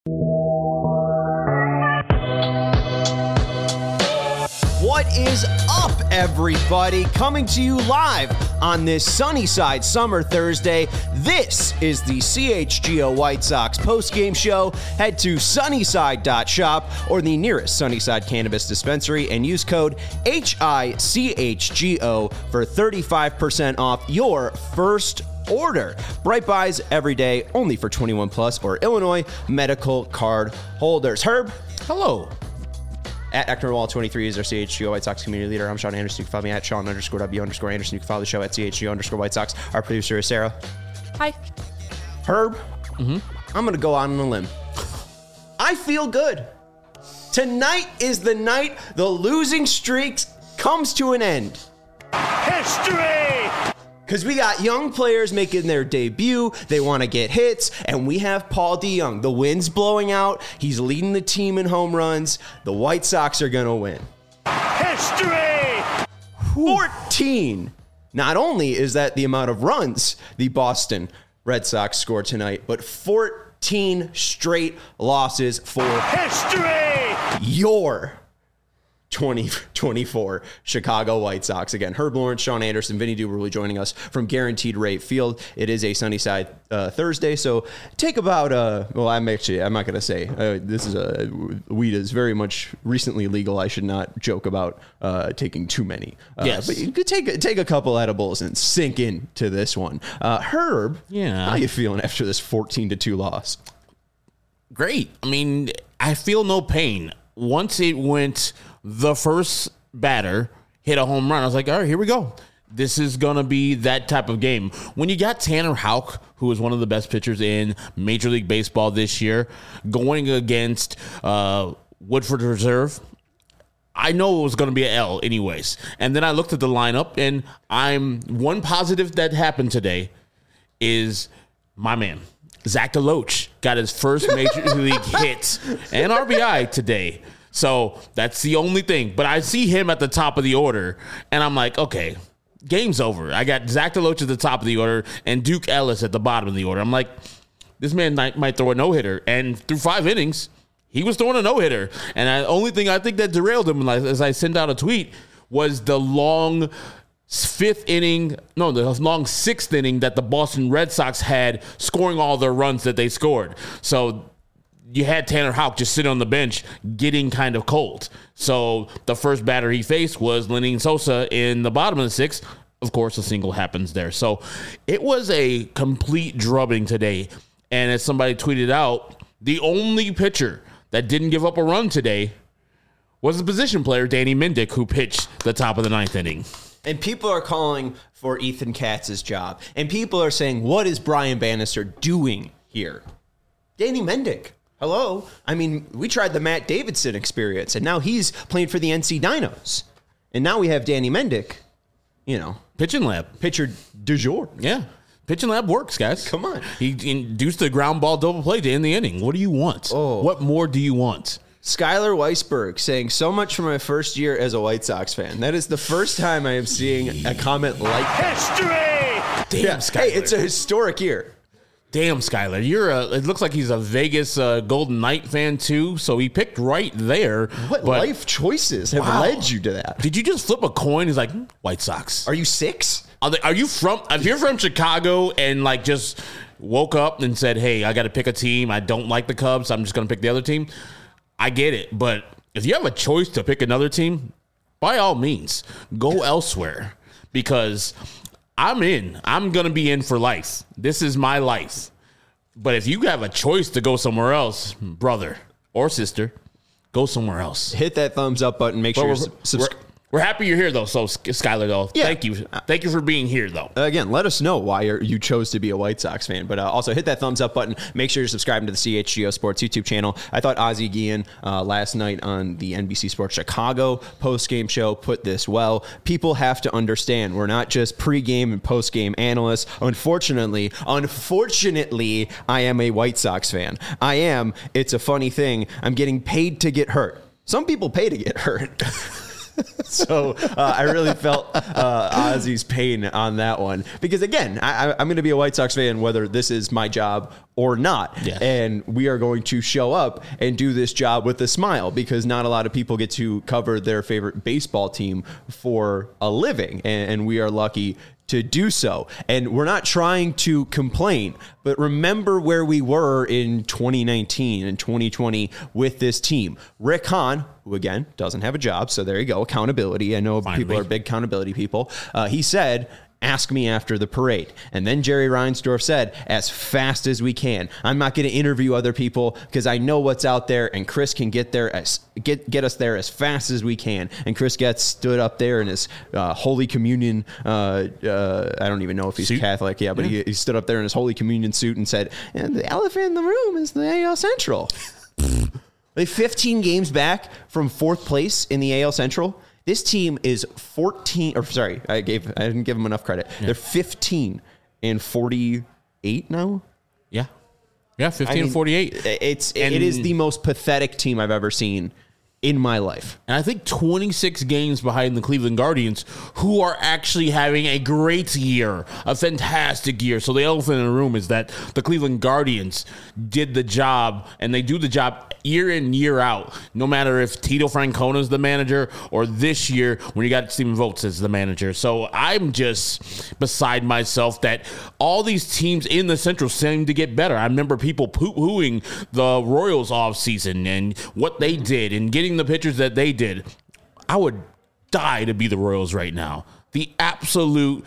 What is up, everybody? Coming to you live on this Sunnyside Summer Thursday. This is the CHGO White Sox postgame show. Head to sunnyside.shop or the nearest Sunnyside Cannabis Dispensary and use code HICHGO for 35% off your first order. Bright Buys every day, only for 21 plus or Illinois medical card holders. Herb. Hello. At Eckner23 is our CHGO White Sox community leader. I'm Sean Anderson. You can follow me at Sean_W_Anderson. You can follow the show at CHGO_White Sox. Our producer is Sarah. Hi. Herb, I'm going to go out on a limb. I feel good. Tonight is the night the losing streak comes to an end. History! Because we got young players making their debut. They want to get hits. And we have Paul DeJong. The wind's blowing out. He's leading the team in home runs. The White Sox are going to win. History! 14. Not only is that the amount of runs the Boston Red Sox scored tonight, but 14 straight losses for history. Your 2024 Chicago White Sox. Again, Herb Lawrence, Sean Anderson, Vinny Duberly joining us from Guaranteed Rate Field. It is a Sunnyside Thursday, so take about I'm not going to say this is weed is very much recently legal. I should not joke about taking too many. Yes, but you could take a couple edibles and sink into this one. Herb, how you feeling after this 14-2 loss? Great. I mean, I feel no pain. Once it went, the first batter hit a home run, I was like, all right, here we go. This is going to be that type of game. When you got Tanner Houck, who is one of the best pitchers in Major League Baseball this year, going against Woodford Reserve, I know it was going to be an L anyways. And then I looked at the lineup, and one positive that happened today is my man, Zach DeLoach, got his first Major League hit and RBI today. So that's the only thing. But I see him at the top of the order, and I'm like, okay, game's over. I got Zach DeLoach at the top of the order and Duke Ellis at the bottom of the order. I'm like, this man might throw a no-hitter. And through 5 innings, he was throwing a no-hitter. And the only thing I think that derailed him, as I sent out a tweet, was the long sixth inning that the Boston Red Sox had scoring all their runs that they scored. So you had Tanner Houck just sitting on the bench getting kind of cold. So the first batter he faced was Lenyn Sosa in the bottom of the 6th. Of course, a single happens there. So it was a complete drubbing today. And as somebody tweeted out, the only pitcher that didn't give up a run today was the position player, Danny Mendick, who pitched the top of the 9th inning. And people are calling for Ethan Katz's job. And people are saying, what is Brian Bannister doing here? Danny Mendick. Hello. I mean, we tried the Matt Davidson experience, and now he's playing for the NC Dinos. And now we have Danny Mendick, Pitching lab. Pitcher du jour. Yeah. Pitching lab works, guys. Come on. He induced the ground ball double play to end the inning. What do you want? Oh. What more do you want? Skylar Weisberg saying, so much for my first year as a White Sox fan. That is the first time I am seeing a comment like that. History! Damn, Skylar. Hey, it's a historic year. Damn, Skylar. It looks like he's a Vegas Golden Knight fan, too, so he picked right there. What life choices have led you to that? Did you just flip a coin? He's like, White Sox. Are you 6? Are you if you're from Chicago and just woke up and said, hey, I got to pick a team. I don't like the Cubs. I'm just going to pick the other team. I get it. But if you have a choice to pick another team, by all means, go elsewhere, because I'm in. I'm going to be in for life. This is my life. But if you have a choice to go somewhere else, brother or sister, go somewhere else. Hit that thumbs up button. Make sure you're subscribed. We're happy you're here, though. So, Skylar, though, yeah. Thank you. Thank you for being here, though. Again, let us know why you chose to be a White Sox fan. But also hit that thumbs up button. Make sure you're subscribing to the CHGO Sports YouTube channel. I thought Ozzie Guillen last night on the NBC Sports Chicago postgame show put this well. People have to understand we're not just pregame and postgame analysts. Unfortunately, I am a White Sox fan. It's a funny thing. I'm getting paid to get hurt. Some people pay to get hurt. So I really felt Ozzy's pain on that one because, again, I'm going to be a White Sox fan whether this is my job or not. Yes. And we are going to show up and do this job with a smile because not a lot of people get to cover their favorite baseball team for a living. And we are lucky to do so. And we're not trying to complain, but remember where we were in 2019 and 2020 with this team. Rick Hahn, who again doesn't have a job, so there you go, accountability. I know people are big accountability people. He said, ask me after the parade. And then Jerry Reinsdorf said, as fast as we can. I'm not going to interview other people because I know what's out there, and Chris can get us there as fast as we can. And Chris Getz stood up there in his Holy Communion. I don't even know if he's Catholic. Yeah, but he stood up there in his Holy Communion suit and said, and the elephant in the room is the AL Central. They 15 games back from fourth place in the AL Central. This team is 14, or sorry, I didn't give them enough credit. Yeah. They're 15 and 48 now. Yeah. Yeah, 15 and 48. It is the most pathetic team I've ever seen in my life. And I think 26 games behind the Cleveland Guardians, who are actually having a great year, a fantastic year. So the elephant in the room is that the Cleveland Guardians did the job, and they do the job year in, year out, no matter if Tito Francona is the manager or this year when you got Stephen Vogt as the manager. So I'm just beside myself that all these teams in the Central seem to get better. I remember people poo-pooing the Royals offseason and what they did and getting the pitchers that they did. I would die to be the Royals right now. The absolute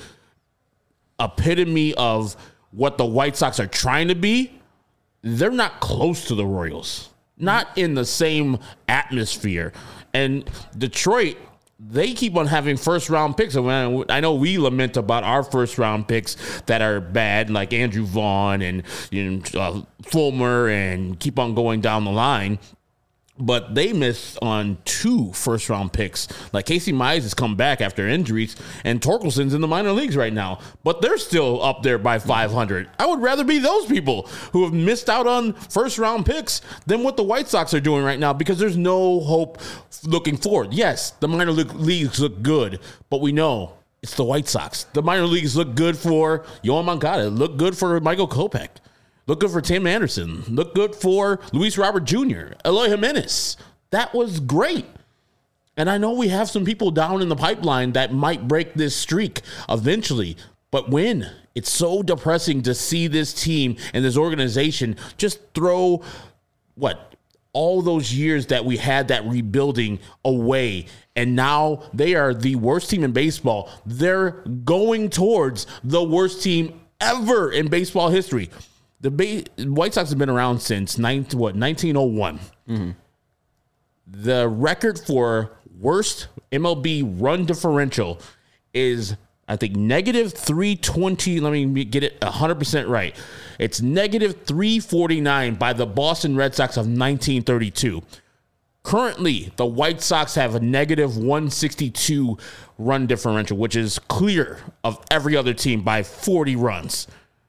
epitome of what the White Sox are trying to be. They're not close to the Royals. Not in the same atmosphere. And Detroit, they keep on having first-round picks. I know we lament about our first-round picks that are bad, like Andrew Vaughn and Fulmer, and keep on going down the line. But they missed on 2 first-round picks. Like Casey Mize has come back after injuries, and Torkelson's in the minor leagues right now. But they're still up there by 500. I would rather be those people who have missed out on first-round picks than what the White Sox are doing right now because there's no hope looking forward. Yes, the minor leagues look good, but we know it's the White Sox. The minor leagues look good for Yoan Moncada, look good for Michael Kopech. Look good for Tim Anderson. Look good for Luis Robert Jr., Eloy Jimenez. That was great. And I know we have some people down in the pipeline that might break this streak eventually. But when? It's so depressing to see this team and this organization just throw, all those years that we had that rebuilding away. And now they are the worst team in baseball. They're going towards the worst team ever in baseball history. The White Sox have been around since 1901. Mm-hmm. The record for worst MLB run differential is, I think, negative 320. Let me get it 100% right. It's negative 349 by the Boston Red Sox of 1932. Currently, the White Sox have a negative 162 run differential, which is clear of every other team by 40 runs.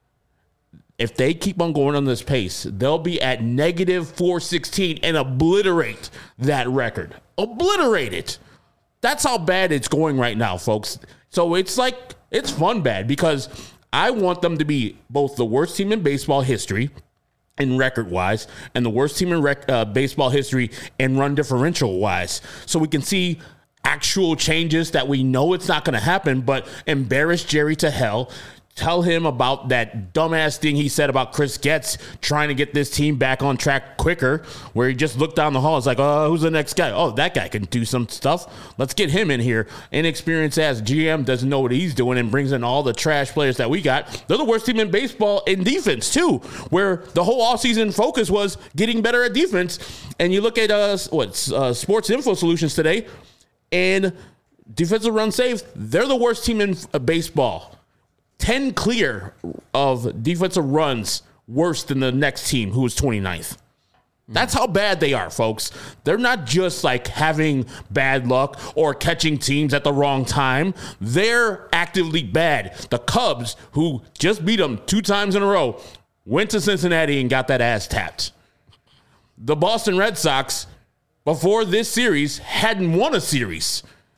If they keep on going on this pace, they'll be at negative 416 and obliterate that record. Obliterate it. That's how bad it's going right now, folks. So it's fun bad because I want them to be both the worst team in baseball history in record-wise and the worst team in baseball history and run differential-wise. So we can see actual changes that we know it's not going to happen, but embarrass Jerry to hell. Tell him about that dumbass thing he said about Chris Getz trying to get this team back on track quicker, where he just looked down the hall. It's like, who's the next guy? Oh, that guy can do some stuff. Let's get him in here. Inexperienced ass GM doesn't know what he's doing and brings in all the trash players that we got. They're the worst team in baseball in defense, too, where the whole offseason focus was getting better at defense. And you look at Sports Info Solutions today, and defensive run safe, they're the worst team in baseball. 10 clear of defensive runs worse than the next team, who was 29th. That's how bad they are, folks. They're not just like having bad luck or catching teams at the wrong time. They're actively bad. The Cubs, who just beat them 2 times in a row, went to Cincinnati and got that ass tapped. The Boston Red Sox, before this series, hadn't won a series.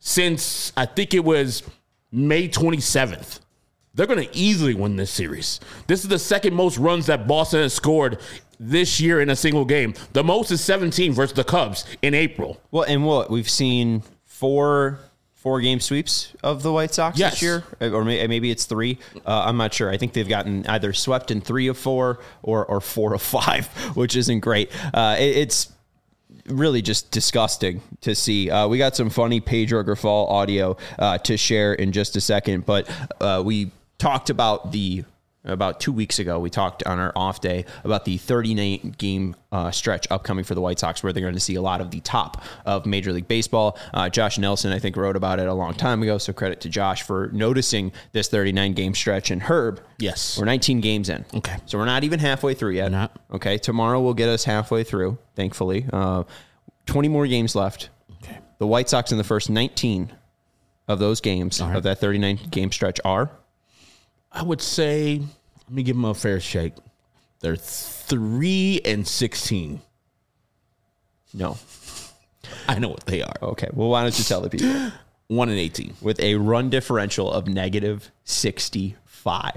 since I think it was May 27th. They're going to easily win this series. This is the second most runs that Boston has scored this year in a single game. The most is 17 versus the Cubs in April. Well, and we've seen four game sweeps of the White Sox this year, or maybe it's 3. I'm not sure. I think they've gotten either swept in 3 of 4 or 4 of 5, which isn't great. It's really just disgusting to see. We got some funny Pedro Grifol audio to share in just a second, but we talked about 2 weeks ago, we talked on our off day about the 39 game stretch upcoming for the White Sox, where they're going to see a lot of the top of Major League Baseball. Josh Nelson, I think, wrote about it a long time ago, so credit to Josh for noticing this 39 game stretch. And Herb, yes, we're 19 games in. Okay. So we're not even halfway through yet. We're not. Okay. Tomorrow will get us halfway through, thankfully. 20 more games left. Okay. The White Sox in the first 19 of those games, of that 39 game stretch, are? I would say, let me give them a fair shake. They're 3-16. No. I know what they are. Okay. Well, why don't you tell the people? 1-18. With a run differential of negative 65.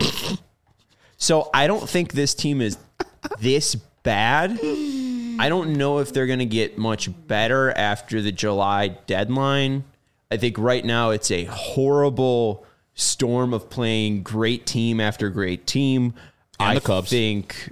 So I don't think this team is this bad. I don't know if they're going to get much better after the July deadline. I think right now it's a horrible storm of playing great team after great team. And the Cubs. Think,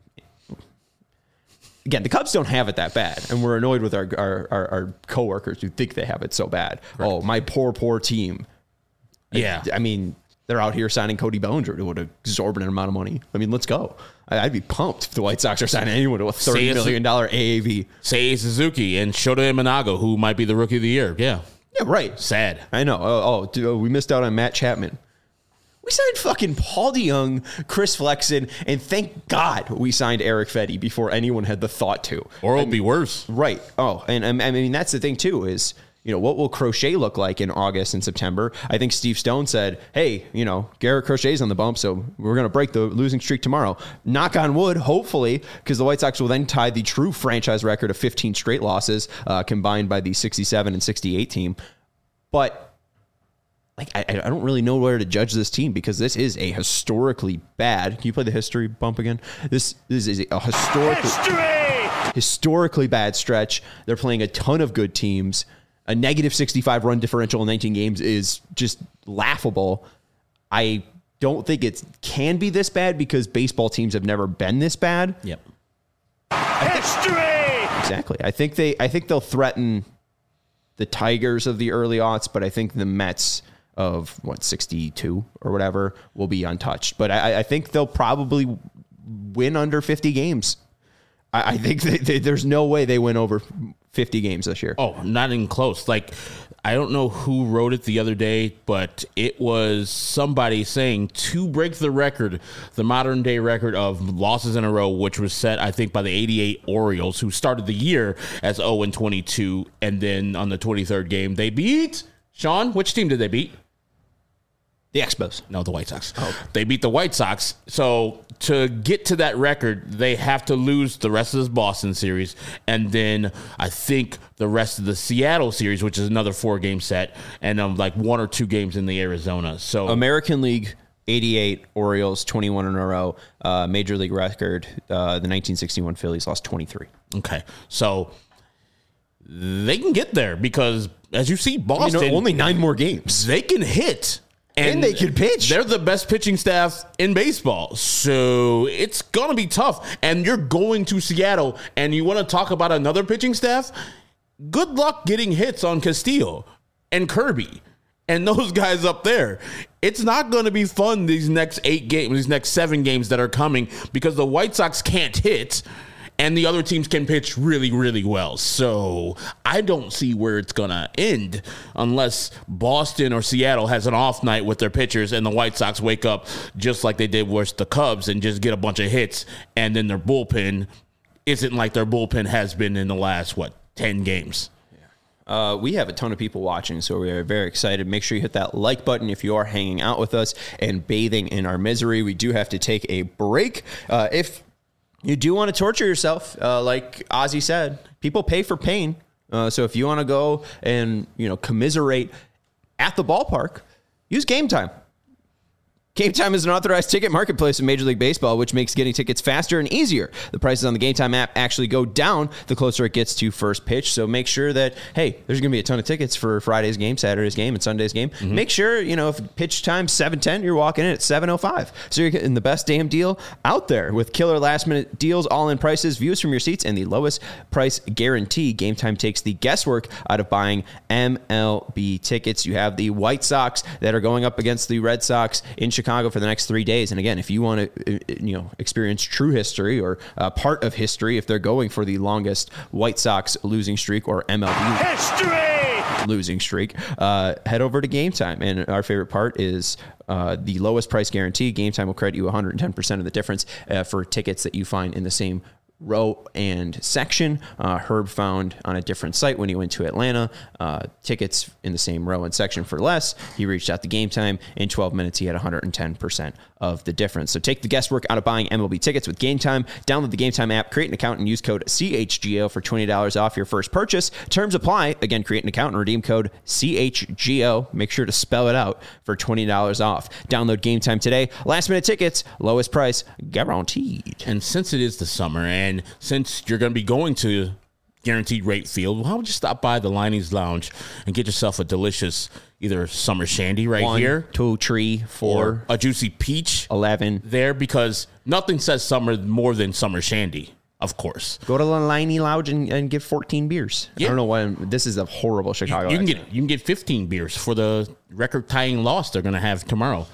again, the Cubs don't have it that bad, and we're annoyed with our coworkers who think they have it so bad. Right. Oh, my poor team. Yeah. I mean, they're out here signing Cody Bellinger to an exorbitant amount of money. I mean, let's go. I'd be pumped if the White Sox are signing anyone to a $30 million AAV. Seiya Suzuki and Shota Imanaga, who might be the Rookie of the Year. Yeah. Yeah, right. Sad. I know. Dude, we missed out on Matt Chapman. We signed fucking Paul DeYoung, Chris Flexen, and thank God we signed Eric Fedde before anyone had the thought to. Or it'll be worse. Right. Oh, and I mean, that's the thing, too, is, what will Crochet look like in August and September? I think Steve Stone said, hey, Garrett Crochet's on the bump, so we're going to break the losing streak tomorrow. Knock on wood, hopefully, because the White Sox will then tie the true franchise record of 15 straight losses combined by the 67 and 68 team. But I don't really know where to judge this team, because this is a historically bad. Can you play the history bump again? This is a historically bad stretch. They're playing a ton of good teams. A negative 65 run differential in 19 games is just laughable. I don't think it can be this bad, because baseball teams have never been this bad. Yep. History. Exactly. I think they'll threaten the Tigers of the early aughts, but I think the Mets of 62 or whatever will be untouched. But I think they'll probably win under 50 games. I think there's no way they win over 50 games this year. Oh, not even close. I don't know who wrote it the other day, but it was somebody saying to break the record, the modern day record of losses in a row, which was set, I think, by the 88 Orioles, who started the year as 0-22. And then on the 23rd game, they beat Sean. Which team did they beat? The Expos. No, the White Sox. Oh. They beat the White Sox. So to get to that record, they have to lose the rest of this Boston series. And then I think the rest of the Seattle series, which is another 4-game set, and 1 or 2 games in the Arizona. So American League, 88 Orioles, 21 in a row. Major League record, the 1961 Phillies lost 23. Okay. So they can get there, because as you see, Boston, only 9 more games. They can hit. And they can pitch. They're the best pitching staff in baseball. So it's going to be tough. And you're going to Seattle, and you want to talk about another pitching staff? Good luck getting hits on Castillo and Kirby and those guys up there. It's not going to be fun these next 8 games, these next 7 games that are coming, because the White Sox can't hit. And the other teams can pitch really, really well. So I don't see where it's going to end unless Boston or Seattle has an off night with their pitchers and the White Sox wake up just like they did with the Cubs and just get a bunch of hits, and then their bullpen isn't like their bullpen has been in the last, 10 games. We have a ton of people watching, so we are very excited. Make sure you hit that like button if you are hanging out with us and bathing in our misery. We do have to take a break. If you do want to torture yourself, like Ozzy said, people pay for pain. So if you want to go and, commiserate at the ballpark, use Game Time. Game Time is an authorized ticket marketplace in Major League Baseball, which makes getting tickets faster and easier. The prices on the Game Time app actually go down the closer it gets to first pitch. So make sure that, hey, there's going to be a ton of tickets for Friday's game, Saturday's game, and Sunday's game. Mm-hmm. Make sure, if pitch time's 7:10, you're walking in at 7:05. So you're getting the best damn deal out there with killer last-minute deals, all-in prices, views from your seats, and the lowest price guarantee. Game Time takes the guesswork out of buying MLB tickets. You have the White Sox that are going up against the Red Sox in Chicago for the next 3 days. And again, if you want to, experience true history or part of history, if they're going for the longest White Sox losing streak or MLB history losing streak, head over to Game Time. And our favorite part is the lowest price guarantee. Game Time will credit you 110% of the difference for tickets that you find in the same row and section. Herb found on a different site when he went to Atlanta tickets in the same row and section for less. He reached out to Game Time. In 12 minutes, he had 110% of the difference. So take the guesswork out of buying MLB tickets with Game Time. Download the Game Time app, create an account, and use code CHGO for $20 off your first purchase. Terms apply. Again, create an account and redeem code CHGO. Make sure to spell it out for $20 off. Download Game Time today. Last minute tickets, lowest price guaranteed. And since it is the summer, and since you're going to be going to Guaranteed Rate Field, why don't you stop by the Liney's Lounge and get yourself a delicious either summer shandy right 1, here, 2, 3, 4, or a juicy peach 11 there, because nothing says summer more than summer shandy, of course. Go to the Liney Lounge and get 14 beers. Yeah. I don't know why this is a horrible Chicago. You can get 15 beers for the record-tying loss they're going to have tomorrow.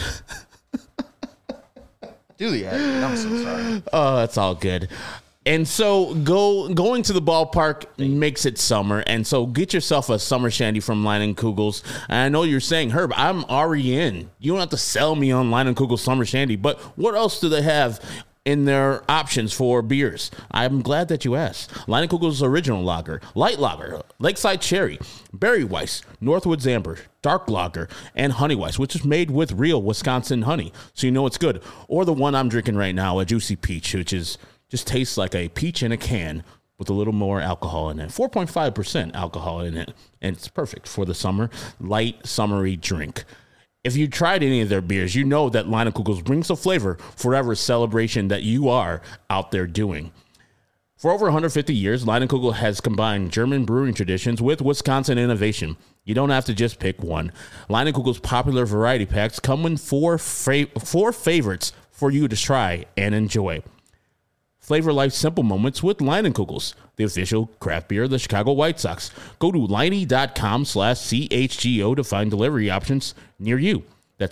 Do the ad. I'm so sorry. Oh, that's all good. And so going to the ballpark makes it summer. And so get yourself a summer shandy from Leinenkugels. And I know you're saying, Herb, I'm already in. You don't have to sell me on Leinenkugels summer shandy. But what else do they have in their options for beers? I'm glad that you asked. Leinenkugels Original Lager, Light Lager, Lakeside Cherry, Berry Weiss, Northwoods Amber, Dark Lager, and Honey Weiss, which is made with real Wisconsin honey, so you know it's good. Or the one I'm drinking right now, a Juicy Peach, which is just tastes like a peach in a can with a little more alcohol in it. 4.5% alcohol in it, and it's perfect for the summer, light, summery drink. If you tried any of their beers, you know that Leinenkugels brings the flavor for whatever celebration that you are out there doing. For over 150 years, Leinenkugel has combined German brewing traditions with Wisconsin innovation. You don't have to just pick one. Leinenkugel's popular variety packs come with four favorites for you to try and enjoy. Flavor life's simple moments with Leinenkugels, the official craft beer of the Chicago White Sox. Go to Liney.com/CHGO to find delivery options near you. That's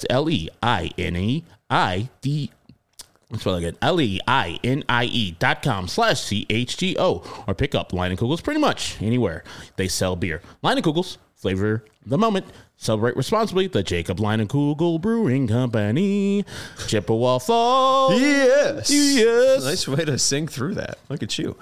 LEINEID. Let's spell again. LEINIE.com/CHGO, or pick up Leinenkugels pretty much anywhere they sell beer. Leinenkugels, flavor the moment. Celebrate responsibly. The Jacob Leinenkugel Brewing Company, Chippewa Falls. Yes. Nice way to sing through that. Look at you.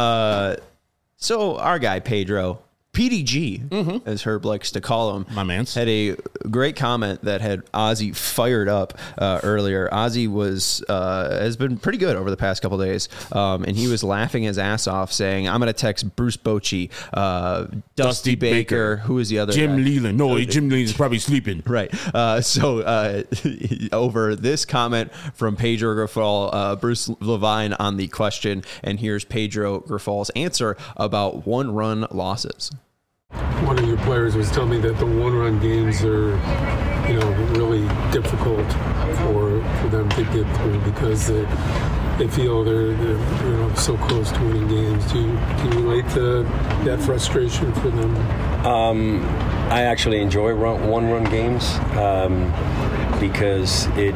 So our guy, Pedro, PDG, as Herb likes to call him, my man's, had a great comment that had Ozzy fired up earlier. Ozzy has been pretty good over the past couple of days, and he was laughing his ass off, saying, "I'm going to text Bruce Bochy, Dusty Baker, who is the other Jim guy? Leland. No, Jim Leland's probably sleeping." Right. So over this comment from Pedro Grifol, Bruce Levine on the question, and here's Pedro Grifal's answer about one-run losses. One of your players was telling me that the one-run games are, really difficult for them to get through because they feel they're so close to winning games. Do you relate to that frustration for them? I actually enjoy one-run games because the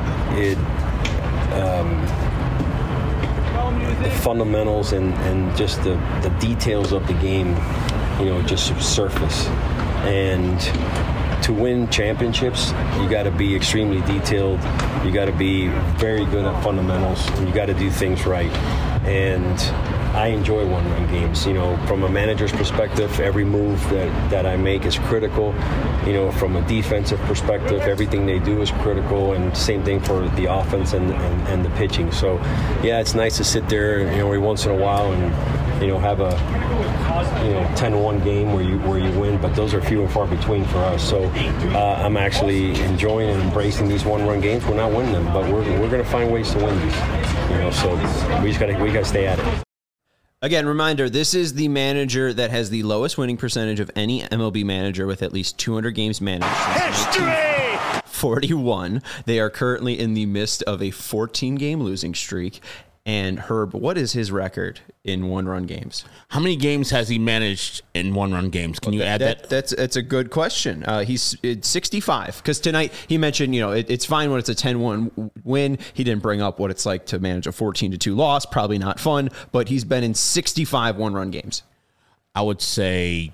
fundamentals and just the details of the game, just surface. And to win championships, you got to be extremely detailed. You got to be very good at fundamentals. And you got to do things right. And I enjoy one-run games. From a manager's perspective, every move that I make is critical. From a defensive perspective, everything they do is critical, and same thing for the offense and the pitching. So, yeah, it's nice to sit there, every once in a while and have a 10-1 game where you win, but those are few and far between for us. So I'm actually enjoying and embracing these one-run games. We're not winning them, but we're going to find ways to win these. So we got to stay at it. Again, reminder, this is the manager that has the lowest winning percentage of any MLB manager with at least 200 games managed since History! 41. They are currently in the midst of a 14-game losing streak. And Herb, what is his record in one-run games? How many games has he managed in one-run games? Can you add that? That's a good question. He's 65 because tonight he mentioned it's fine when it's a 10-1 win. He didn't bring up what it's like to manage a 14-2 loss. Probably not fun, but he's been in 65 one-run games. I would say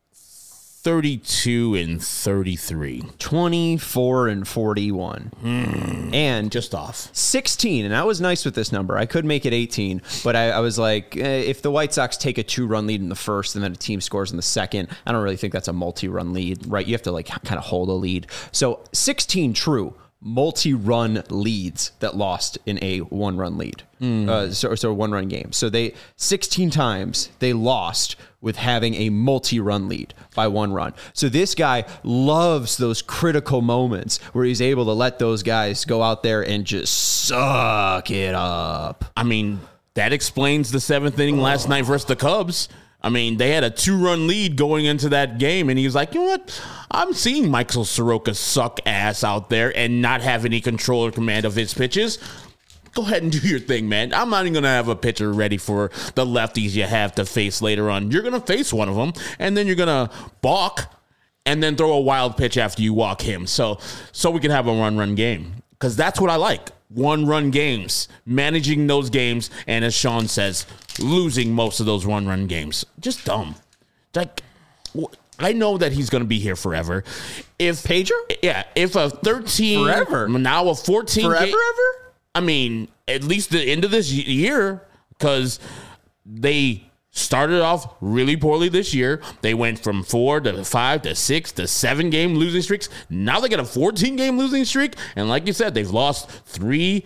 32 and 33. 24 and 41. And just off. 16, and I was nice with this number. I could make it 18, but I was like, if the White Sox take a 2-run lead in the first and then a team scores in the second, I don't really think that's a multi-run lead, right? You have to kind of hold a lead. So 16 true multi-run leads that lost in a one-run lead. So one-run game. So 16 times they lost with having a multi-run lead by one run. So this guy loves those critical moments where he's able to let those guys go out there and just suck it up. I mean, that explains the 7th inning last night versus the Cubs. I mean, they had a 2-run lead going into that game, and he was like, you know what? I'm seeing Michael Soroka suck ass out there and not have any control or command of his pitches. Go ahead and do your thing, man. I'm not even going to have a pitcher ready for the lefties you have to face later on. You're going to face one of them, and then you're going to balk and then throw a wild pitch after you walk him. So we can have a one-run game, because that's what I like. One-run games, managing those games, and as Sean says, losing most of those one-run games. Just dumb. Like, I know that he's going to be here forever. If Pedro? Yeah, if a 13... Forever? Now a 14... Forever, ever? I mean, at least the end of this year, because they started off really poorly this year. They went from 4 to 5 to 6 to 7 game losing streaks. Now they got a 14-game losing streak. And like you said, they've lost 3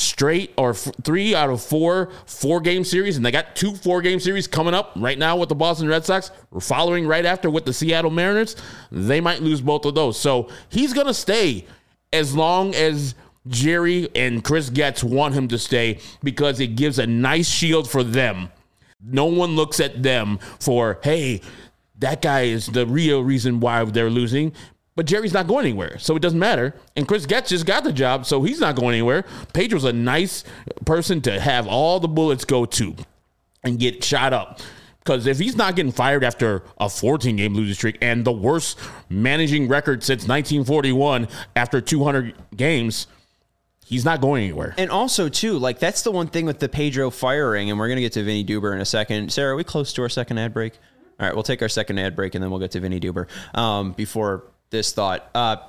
out of 4 4-game series. And they got 2 4-game series coming up right now with the Boston Red Sox. We're following right after with the Seattle Mariners. They might lose both of those. So he's going to stay as long as Jerry and Chris Getz want him to stay, because it gives a nice shield for them. No one looks at them for, hey, that guy is the real reason why they're losing. But Jerry's not going anywhere, so it doesn't matter. And Chris Getz just got the job, so he's not going anywhere. Pedro's a nice person to have all the bullets go to and get shot up. Because if he's not getting fired after a 14-game losing streak and the worst managing record since 1941 after 200 games, he's not going anywhere. And also, too, like, that's the one thing with the Pedro firing, and we're going to get to Vinny Duber in a second. Sarah, are we close to our second ad break? All right, we'll take our second ad break, and then we'll get to Vinny Duber. Before this thought,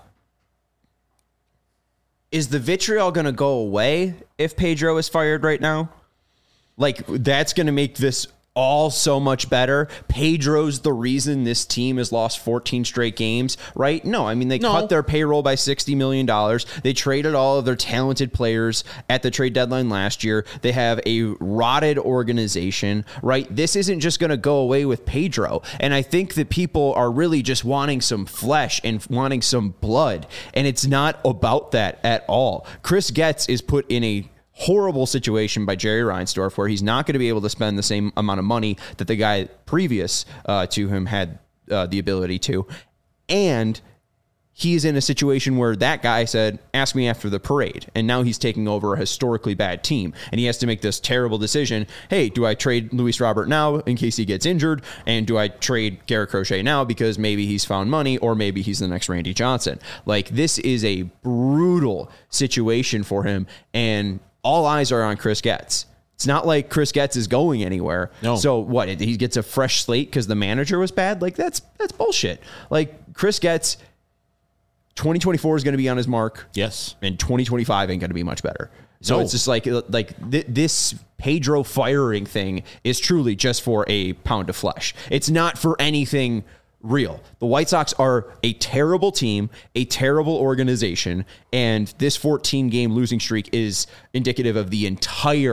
is the vitriol going to go away if Pedro is fired right now? Like, that's going to make this all so much better. Pedro's the reason this team has lost 14 straight games, right? No, I mean, they cut their payroll by $60 million. They traded all of their talented players at the trade deadline last year. They have a rotted organization, right? This isn't just going to go away with Pedro. And I think that people are really just wanting some flesh and wanting some blood. And it's not about that at all. Chris Getz is put in a horrible situation by Jerry Reinsdorf, where he's not going to be able to spend the same amount of money that the guy previous to him had the ability to. And he's in a situation where that guy said, ask me after the parade. And now he's taking over a historically bad team. And he has to make this terrible decision. Hey, do I trade Luis Robert now in case he gets injured? And do I trade Garrett Crochet now because maybe he's found money, or maybe he's the next Randy Johnson? Like, this is a brutal situation for him. And all eyes are on Chris Getz. It's not like Chris Getz is going anywhere. No. So what? He gets a fresh slate because the manager was bad? Like, that's bullshit. Like, Chris Getz, 2024 is going to be on his mark. Yes. And 2025 ain't going to be much better. So No. it's just like this Pedro firing thing is truly just for a pound of flesh. It's not for anything real. The White Sox are a terrible team, a terrible organization, and this 14-game losing streak is indicative of the entire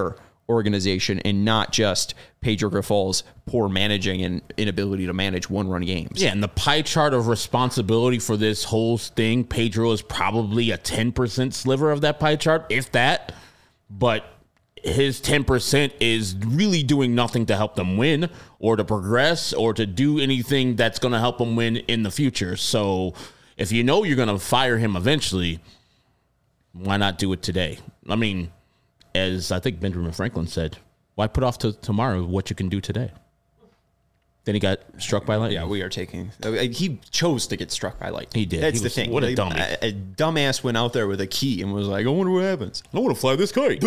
organization and not just Pedro Grifol's poor managing and inability to manage one-run games. Yeah, and the pie chart of responsibility for this whole thing, Pedro is probably a 10% sliver of that pie chart, if that. But his 10% is really doing nothing to help them win or to progress or to do anything that's going to help them win in the future. So if you know you're going to fire him eventually, why not do it today? I mean, as I think Benjamin Franklin said, why put off to tomorrow what you can do today? Then he got struck by lightning. Yeah, we are taking. He chose to get struck by lightning. He did. That's He the was- thing. what a dummy. A dumbass went out there with a key and was like, "I wonder what happens." I want to fly this kite.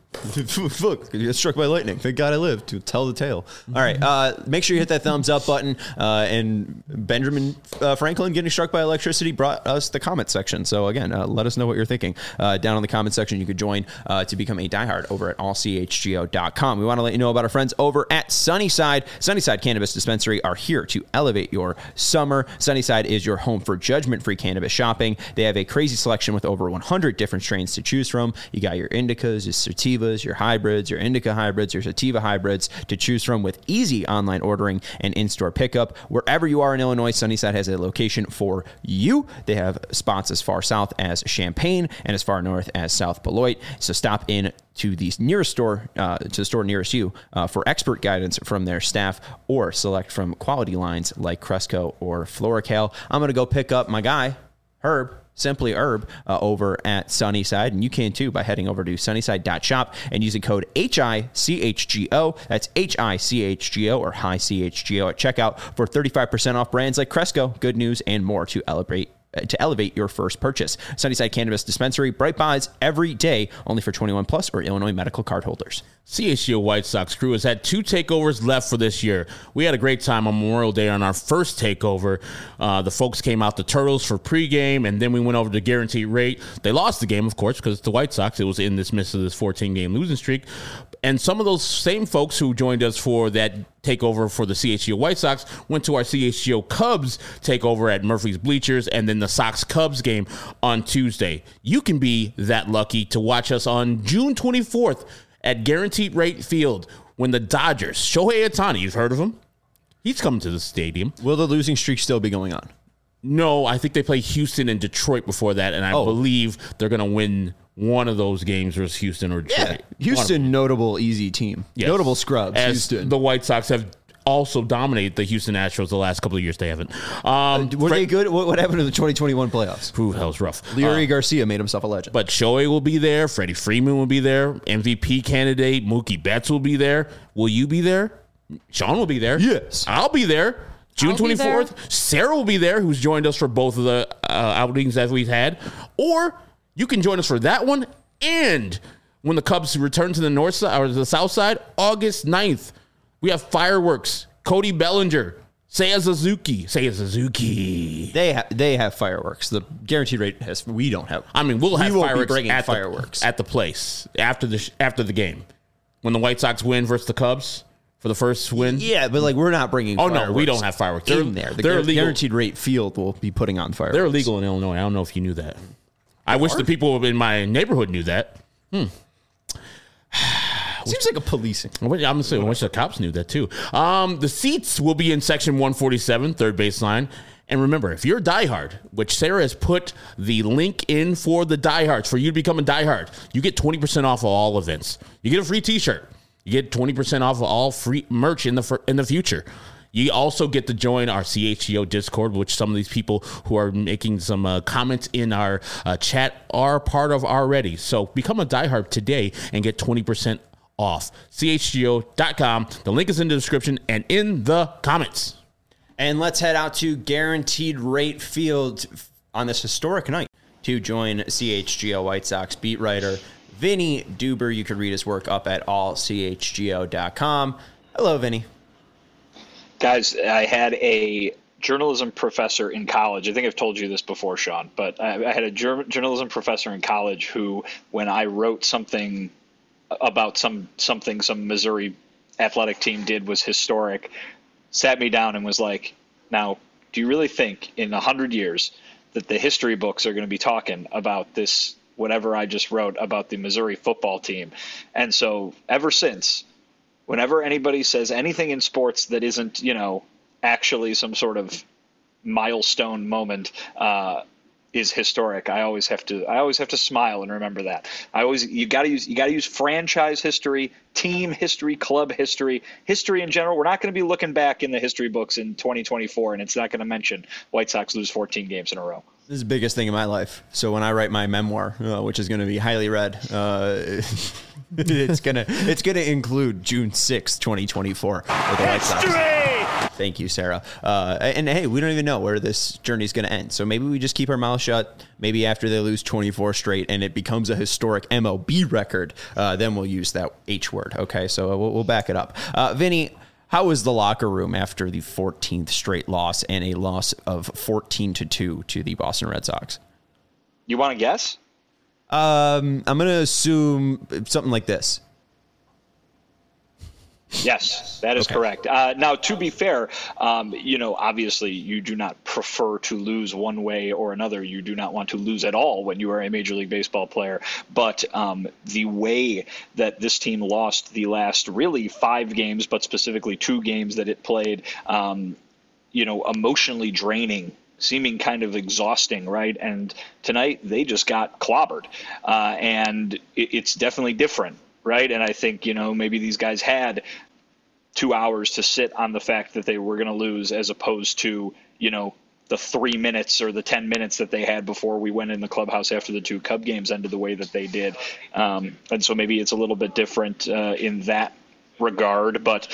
Fuck, you get struck by lightning. Thank God I lived to tell the tale. All right, make sure you hit that thumbs up button. And Benjamin Franklin getting struck by electricity brought us the comment section. So again, let us know what you're thinking. Down in the comment section, you could join to become a diehard over at allchgo.com. We want to let you know about our friends over at Sunnyside. Sunnyside Cannabis Dispensary are here to elevate your summer. Sunnyside is your home for judgment-free cannabis shopping. They have a crazy selection with over 100 different strains to choose from. You got your indicas, your sativas, your hybrids, your indica hybrids, your sativa hybrids to choose from with easy online ordering and in-store pickup. Wherever you are in Illinois, Sunnyside has a location for you. They have spots as far south as Champaign and as far north as South Beloit. So stop in to the nearest store, to the store nearest you for expert guidance from their staff or select from quality lines like Cresco or Floracal. I'm going to go pick up my guy, Herb, Simply Herb, over at Sunnyside, and you can too by heading over to sunnyside.shop and using code HICHGO. That's HICHGO or high CHGO at checkout for 35% off brands like Cresco, Good News, and more to elevate your first purchase. Sunnyside Cannabis Dispensary, bright buys every day, only for 21 plus or Illinois medical card holders. CHGO White Sox crew has had 2 takeovers left for this year. We had a great time on Memorial Day on our first takeover. The folks came out the Turtles for pregame, and then we went over to Guaranteed Rate. They lost the game, of course, because it's the White Sox. It was in this midst of this 14-game losing streak. And some of those same folks who joined us for that takeover for the CHGO White Sox went to our CHGO Cubs takeover at Murphy's Bleachers and then the Sox-Cubs game on Tuesday. You can be that lucky to watch us on June 24th at Guaranteed Rate Field when the Dodgers, Shohei Ohtani, you've heard of him? He's coming to the stadium. Will the losing streak still be going on? No, I think they play Houston and Detroit before that, and I believe they're going to win one of those games versus Houston or Detroit. Yeah, Houston, notable easy team. Yes. Notable scrubs. As Houston. The White Sox have also dominated the Houston Astros the last couple of years. They haven't. Were they good? What happened in the 2021 playoffs? Ooh, that was rough. Leury Garcia made himself a legend. But Shohei will be there. Freddie Freeman will be there. MVP candidate Mookie Betts will be there. Will you be there? Sean will be there. Yes. I'll be there. June I'll be 24th. there. Sarah will be there, who's joined us for both of the outings that we've had. Or you can join us for that one. And when the Cubs return to the north side or the south side, August 9th, we have fireworks. Cody Bellinger, Seiya Suzuki. They have fireworks. The Guaranteed Rate has. We don't have. I mean, we'll have won't be fireworks bringing at fireworks at the place after the game when the White Sox win versus the Cubs for the first win. Yeah, but like we're not bringing. Oh fireworks no, we don't have fireworks. in there. The they're illegal. Guaranteed Rate Field will be putting on fireworks. They're illegal in Illinois. I don't know if you knew that. I wish the people in my neighborhood knew that. Seems like a policing. I'm gonna say I wish the cops knew that too. The seats will be in section 147, third baseline. And remember, if you're a diehard, which Sarah has put the link in for the diehards, for you to become a diehard, you get 20% off of all events. You get a free T-shirt. You get 20% off of all free merch in the future. You also get to join our CHGO Discord, which some of these people who are making some comments in our chat are part of already. So become a diehard today and get 20% off. CHGO.com. The link is in the description and in the comments. And let's head out to Guaranteed Rate Field on this historic night to join CHGO White Sox beat writer Vinny Duber. You can read his work up at allchgo.com. Hello, Vinny. Guys, I had a journalism professor in college. I think I've told you this before, Sean, but I had a journalism professor in college who, when I wrote something about some Missouri athletic team did was historic, sat me down and was like, now, do you really think in 100 years that the history books are going to be talking about this whatever I just wrote about the Missouri football team. And so ever since, whenever anybody says anything in sports that isn't, actually some sort of milestone moment, is historic, I always have to smile and remember that. You got to use franchise history, team history, club history in general. We're not going to be looking back in the history books in 2024, and it's not going to mention White Sox lose 14 games in a row. This is the biggest thing in my life. So when I write my memoir, which is going to be highly read, it's gonna include June 6th, 2024 with the White Sox. Thank you, Sarah. And hey, we don't even know where this journey is going to end. So maybe we just keep our mouth shut. Maybe after they lose 24 straight and it becomes a historic MLB record, then we'll use that H word. Okay, so we'll back it up. Vinny, how was the locker room after the 14th straight loss and a loss of 14-2 to the Boston Red Sox? You want to guess? I'm going to assume something like this. Yes, that is correct. Now, to be fair, obviously you do not prefer to lose one way or another. You do not want to lose at all when you are a Major League Baseball player. But the way that this team lost the last really 5 games, but specifically 2 games that it played, emotionally draining, seeming kind of exhausting, right? And tonight they just got clobbered. And it's definitely different. Right. And I think, maybe these guys had 2 hours to sit on the fact that they were going to lose as opposed to, the 3 minutes or the 10 minutes that they had before we went in the clubhouse after the 2 Cub games ended the way that they did. And so maybe it's a little bit different in that regard. But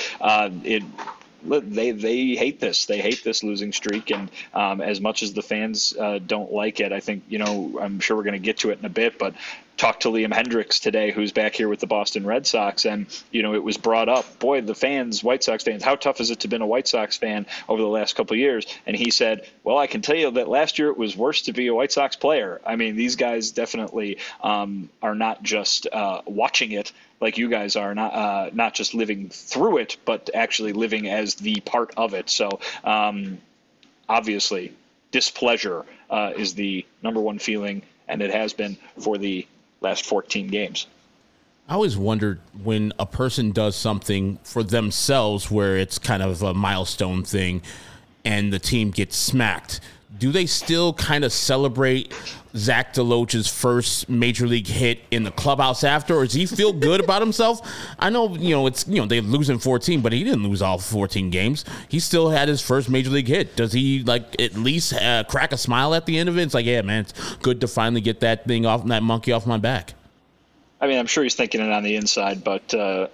they hate this. They hate this losing streak. And as much as the fans don't like it, I think, I'm sure we're going to get to it in a bit, but talked to Liam Hendriks today, who's back here with the Boston Red Sox, and it was brought up, boy, the fans, White Sox fans, how tough is it to be a White Sox fan over the last couple of years? And he said, well, I can tell you that last year it was worse to be a White Sox player. I mean, these guys definitely are not just watching it like you guys are, not just living through it, but actually living as the part of it. So obviously displeasure is the number one feeling, and it has been for the last 14 games. I always wondered when a person does something for themselves where it's kind of a milestone thing and the team gets smacked, do they still kind of celebrate Zach DeLoach's first major league hit in the clubhouse after, or does he feel good about himself? I know, they lose in 14, but he didn't lose all 14 games. He still had his first major league hit. Does he at least crack a smile at the end of it? It's like, yeah, man, it's good to finally get that thing off, that monkey off my back. I mean, I'm sure he's thinking it on the inside, but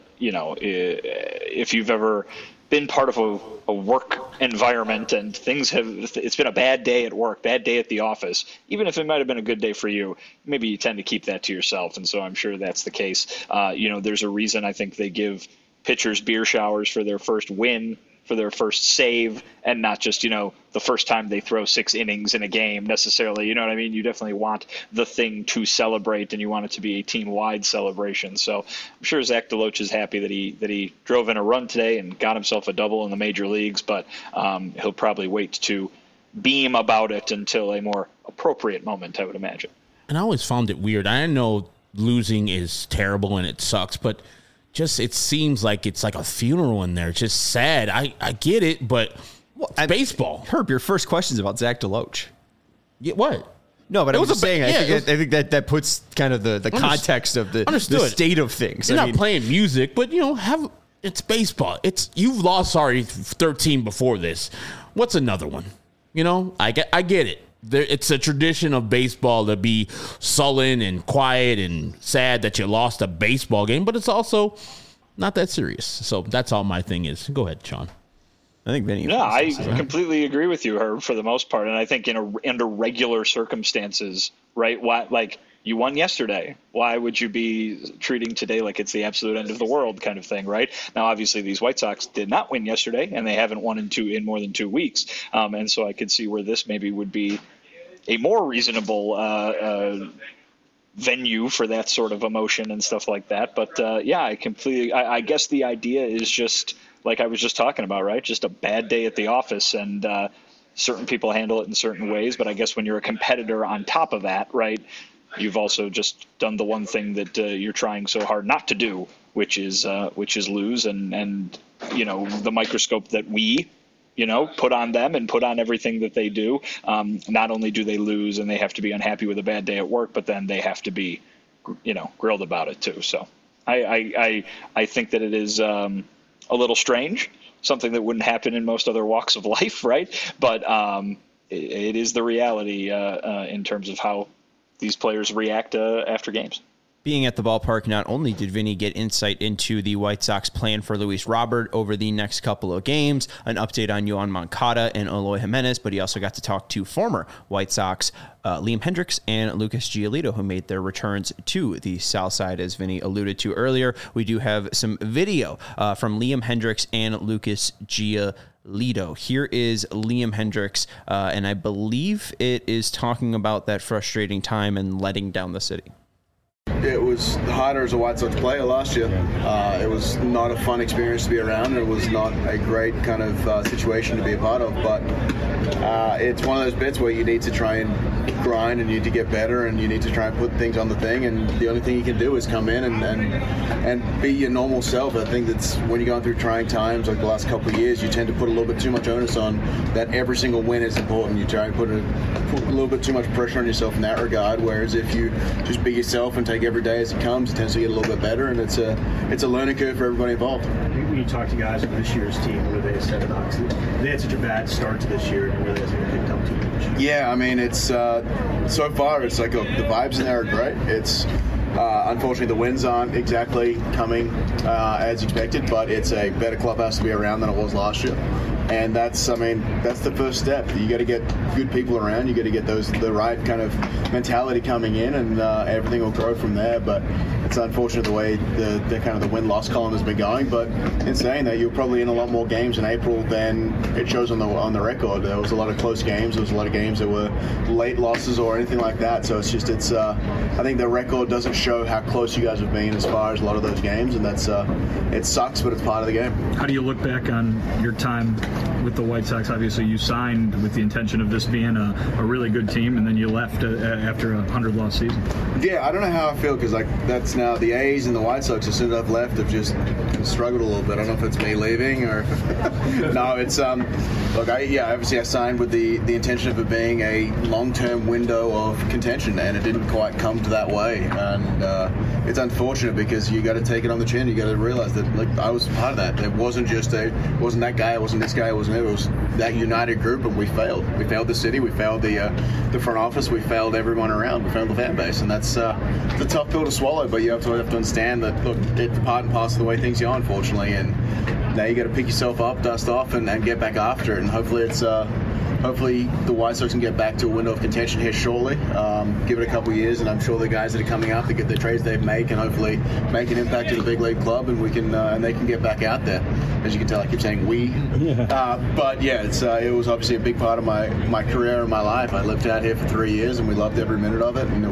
if you've ever been part of a work environment and it's been a bad day at work, bad day at the office, even if it might have been a good day for you, maybe you tend to keep that to yourself. And so I'm sure that's the case. There's a reason I think they give pitchers beer showers for their first win, for their first save, and not just, the first time they throw 6 innings in a game necessarily. You know what I mean? You definitely want the thing to celebrate, and you want it to be a team-wide celebration. So I'm sure Zach DeLoach is happy that he drove in a run today and got himself a double in the major leagues, but he'll probably wait to beam about it until a more appropriate moment, I would imagine. And I always found it weird. I know losing is terrible and it sucks, but just it seems like it's like a funeral in there. It's just sad. I get it, but baseball. Herb, your first question is about Zach DeLoach. Yeah, what? No, but I was just saying, I think that puts kind of the context of the state of things. You're not playing music, but it's baseball. You've lost 13 before this. What's another one? I get it. It's a tradition of baseball to be sullen and quiet and sad that you lost a baseball game, but it's also not that serious. So that's all my thing is. Go ahead, Sean. I think Vinny. Yeah, I completely agree with you, Herb, for the most part. And I think under regular circumstances, right? You won yesterday. Why would you be treating today like it's the absolute end of the world kind of thing, right? Now, obviously, these White Sox did not win yesterday, and they haven't won in more than 2 weeks. And so I could see where this maybe would be a more reasonable venue for that sort of emotion and stuff like that. But, I guess the idea is just like I was just talking about, right? Just a bad day at the office, and certain people handle it in certain ways. But I guess when you're a competitor on top of that, right, you've also just done the one thing that you're trying so hard not to do, which is lose. And the microscope that we put on them and put on everything that they do. Not only do they lose and they have to be unhappy with a bad day at work, but then they have to be, grilled about it too. So I think that it is a little strange, something that wouldn't happen in most other walks of life, right? But it is the reality in terms of how these players react after games. Being at the ballpark, not only did Vinny get insight into the White Sox plan for Luis Robert over the next couple of games, an update on Yoan Moncada and Eloy Jimenez, but he also got to talk to former White Sox Liam Hendriks and Lucas Giolito, who made their returns to the South Side, as Vinny alluded to earlier. We do have some video from Liam Hendriks and Lucas Giolito. Here is Liam Hendriks, and I believe it is talking about that frustrating time and letting down the city. It was harder as a White Sox player last year. It was not a fun experience to be around. It was not a great kind of situation to be a part of, but it's one of those bits where you need to try and grind and you need to get better and you need to try and put things on the thing, and the only thing you can do is come in and be your normal self. I think that's when you're going through trying times like the last couple of years, you tend to put a little bit too much onus on that every single win is important. You try and put a little bit too much pressure on yourself in that regard, whereas if you just be yourself and take every day as it comes, it tends to get a little bit better, and it's a learning curve for everybody involved. When you talk to guys of this year's team, what do they say about it? They had such a bad start to this year, and it really hasn't been picked up too much. Yeah, I mean, it's so far it's like the vibes in there are great. It's unfortunately the wins aren't exactly coming as expected, but it's a better clubhouse to be around than it was last year. And that's the first step. You got to get good people around. You got to get the right kind of mentality coming in, and everything will grow from there. But it's unfortunate the way the kind of the win-loss column has been going. But in saying that, you're probably in a lot more games in April than it shows on the record. There was a lot of close games. There was a lot of games that were late losses or anything like that. So it's I think the record doesn't show how close you guys have been as far as a lot of those games, and that's it sucks, but it's part of the game. How do you look back on your time with the White Sox? Obviously, you signed with the intention of this being a really good team, and then you left after a 100-loss season. Yeah, I don't know how I feel, because that's now the A's and the White Sox, as soon as I've left, have just struggled a little bit. I don't know if it's me leaving or no. It's obviously I signed with the intention of it being a long-term window of contention, and it didn't quite come to that way. And it's unfortunate, because you got to take it on the chin. You got to realize that I was part of that. It wasn't just it wasn't that guy. It wasn't this guy. It wasn't. It was that united group, and we failed. We failed the city. We failed the front office. We failed everyone around. We failed the fan base, and that's it's a tough pill to swallow. But you have to understand that it's part and parcel of the way things go, unfortunately. And now you got to pick yourself up, dust off, and get back after it. And hopefully hopefully the White Sox can get back to a window of contention here shortly. Give it a couple of years, and I'm sure the guys that are coming up to get the trades they make and hopefully make an impact at a big league club, and we can and they can get back out there. As you can tell, I keep saying we. But yeah, it was obviously a big part of my career and my life. I lived out here for 3 years, and we loved every minute of it. And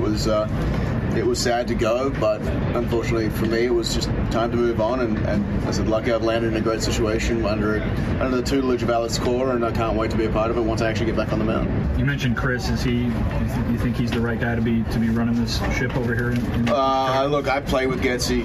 it was sad to go, but unfortunately for me, it was just time to move on. And I said, lucky I've landed in a great situation under the tutelage of Alex Cora, and I can't wait to be a part of it once I actually get back on the mound. You mentioned Chris. You think he's the right guy to be running this ship over here? Look, I play with Getsy.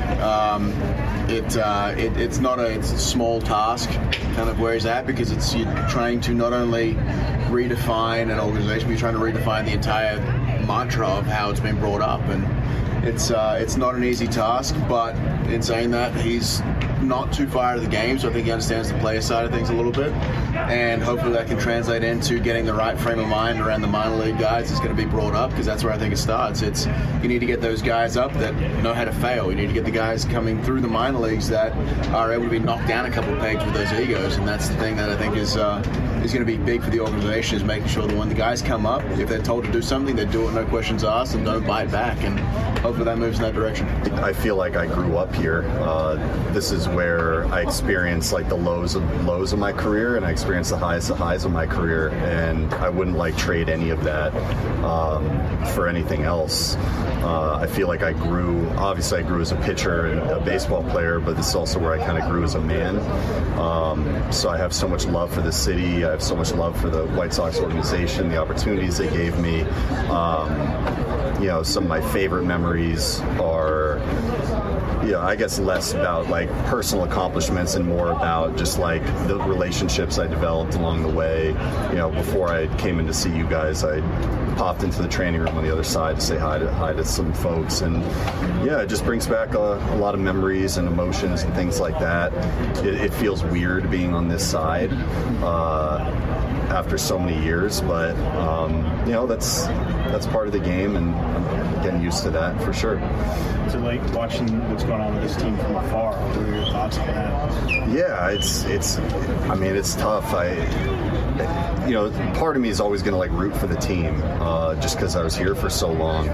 It's not a small task, kind of where he's at, because you're trying to not only redefine an organization, but you're trying to redefine the entire mantra of how it's been brought up, and it's not an easy task. But in saying that, he's not too far out of the game, so I think he understands the player side of things a little bit, and hopefully that can translate into getting the right frame of mind around the minor league guys that's going to be brought up, because that's where I think it starts. You need to get those guys up that know how to fail. You need to get the guys coming through the minor leagues that are able to be knocked down a couple of pegs with those egos, and that's the thing that I think is going to be big for the organization, is making sure that when the guys come up, if they're told to do something, they do it, no questions asked, and don't bite back, and hopefully that moves in that direction. I feel like I grew up here. This is where I experienced the lows of my career, and I experienced the highs of my career, and I wouldn't trade any of that for anything else. I feel like I grew as a pitcher and a baseball player, but this is also where I kind of grew as a man. So I have so much love for the city. I have so much love for the White Sox organization, the opportunities they gave me. Some of my favorite memories are, I guess less about like personal accomplishments and more about just like the relationships I developed along the way. Before I came in to see you guys, I popped into the training room on the other side to say hi to some folks, and it just brings back a lot of memories and emotions and things like that. It feels weird being on this side after so many years, but that's part of the game, and I'm getting used to that for sure. So, like, watching what's going on with this team from afar, what are your thoughts on that? Yeah, it's tough. Part of me is always going to like root for the team, just because I was here for so long.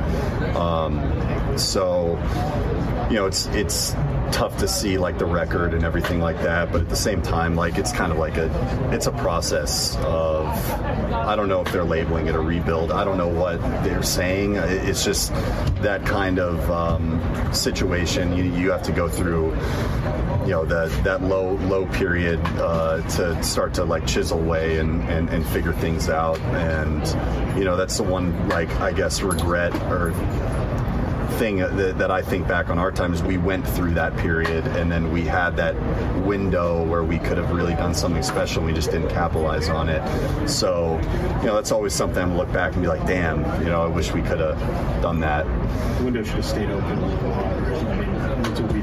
It's tough to see like the record and everything like that, but at the same time, like it's kind of like it's a process of, I don't know if they're labeling it a rebuild. I don't know what they're saying. It's just that kind of situation. You have to go through that low period to start to like chisel away and figure things out, and that's the one, like, I guess regret or thing that I think back on our time is we went through that period, and then we had that window where we could have really done something special, and we just didn't capitalize on it. So that's always something I'm look back and be like, damn, I wish we could have done that. The window should have stayed open a little longer. That's what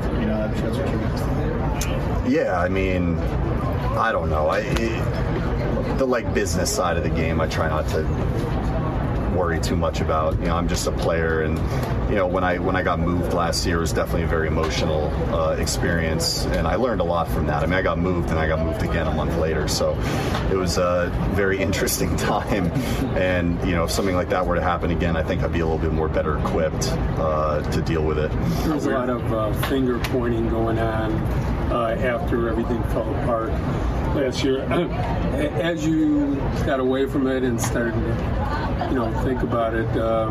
I don't know. The like business side of the game, I try not to worry too much about. I'm just a player, and when I got moved last year, it was definitely a very emotional experience, and I learned a lot from that. I got moved, and I got moved again a month later, so it was a very interesting time. And if something like that were to happen again, I think I'd be a little bit more better equipped to deal with it. There was a lot of finger pointing going on after everything fell apart last year. As you got away from it and started to think about it,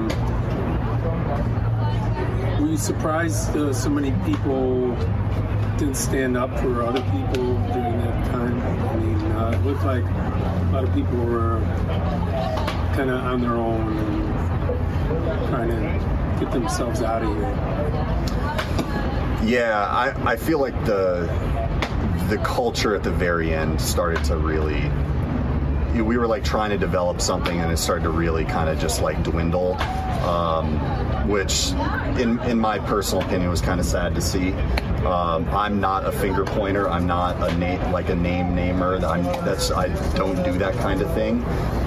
were you surprised so many people didn't stand up for other people during that time? It looked like a lot of people were kind of on their own and trying to get themselves out of here. Yeah, I feel like the culture at the very end started to really, we were like trying to develop something, and it started to really kind of just like dwindle, which in my personal opinion was kind of sad to see. I'm not a finger pointer. I'm not a name namer. I don't do that kind of thing.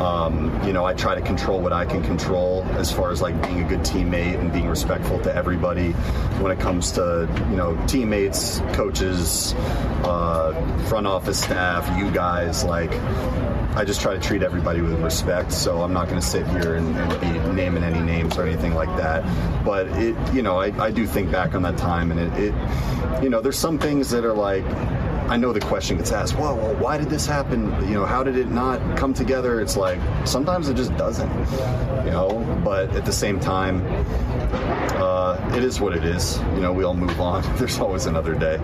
I try to control what I can control as far as like being a good teammate and being respectful to everybody. When it comes to teammates, coaches, front office staff, you guys, like, I just try to treat everybody with respect, so I'm not going to sit here and be naming any names or anything like that. But I do think back on that time, and it there's some things that are like, I know the question gets asked, well, why did this happen? How did it not come together? It's like, sometimes it just doesn't, but at the same time, it is what it is. We all move on. There's always another day.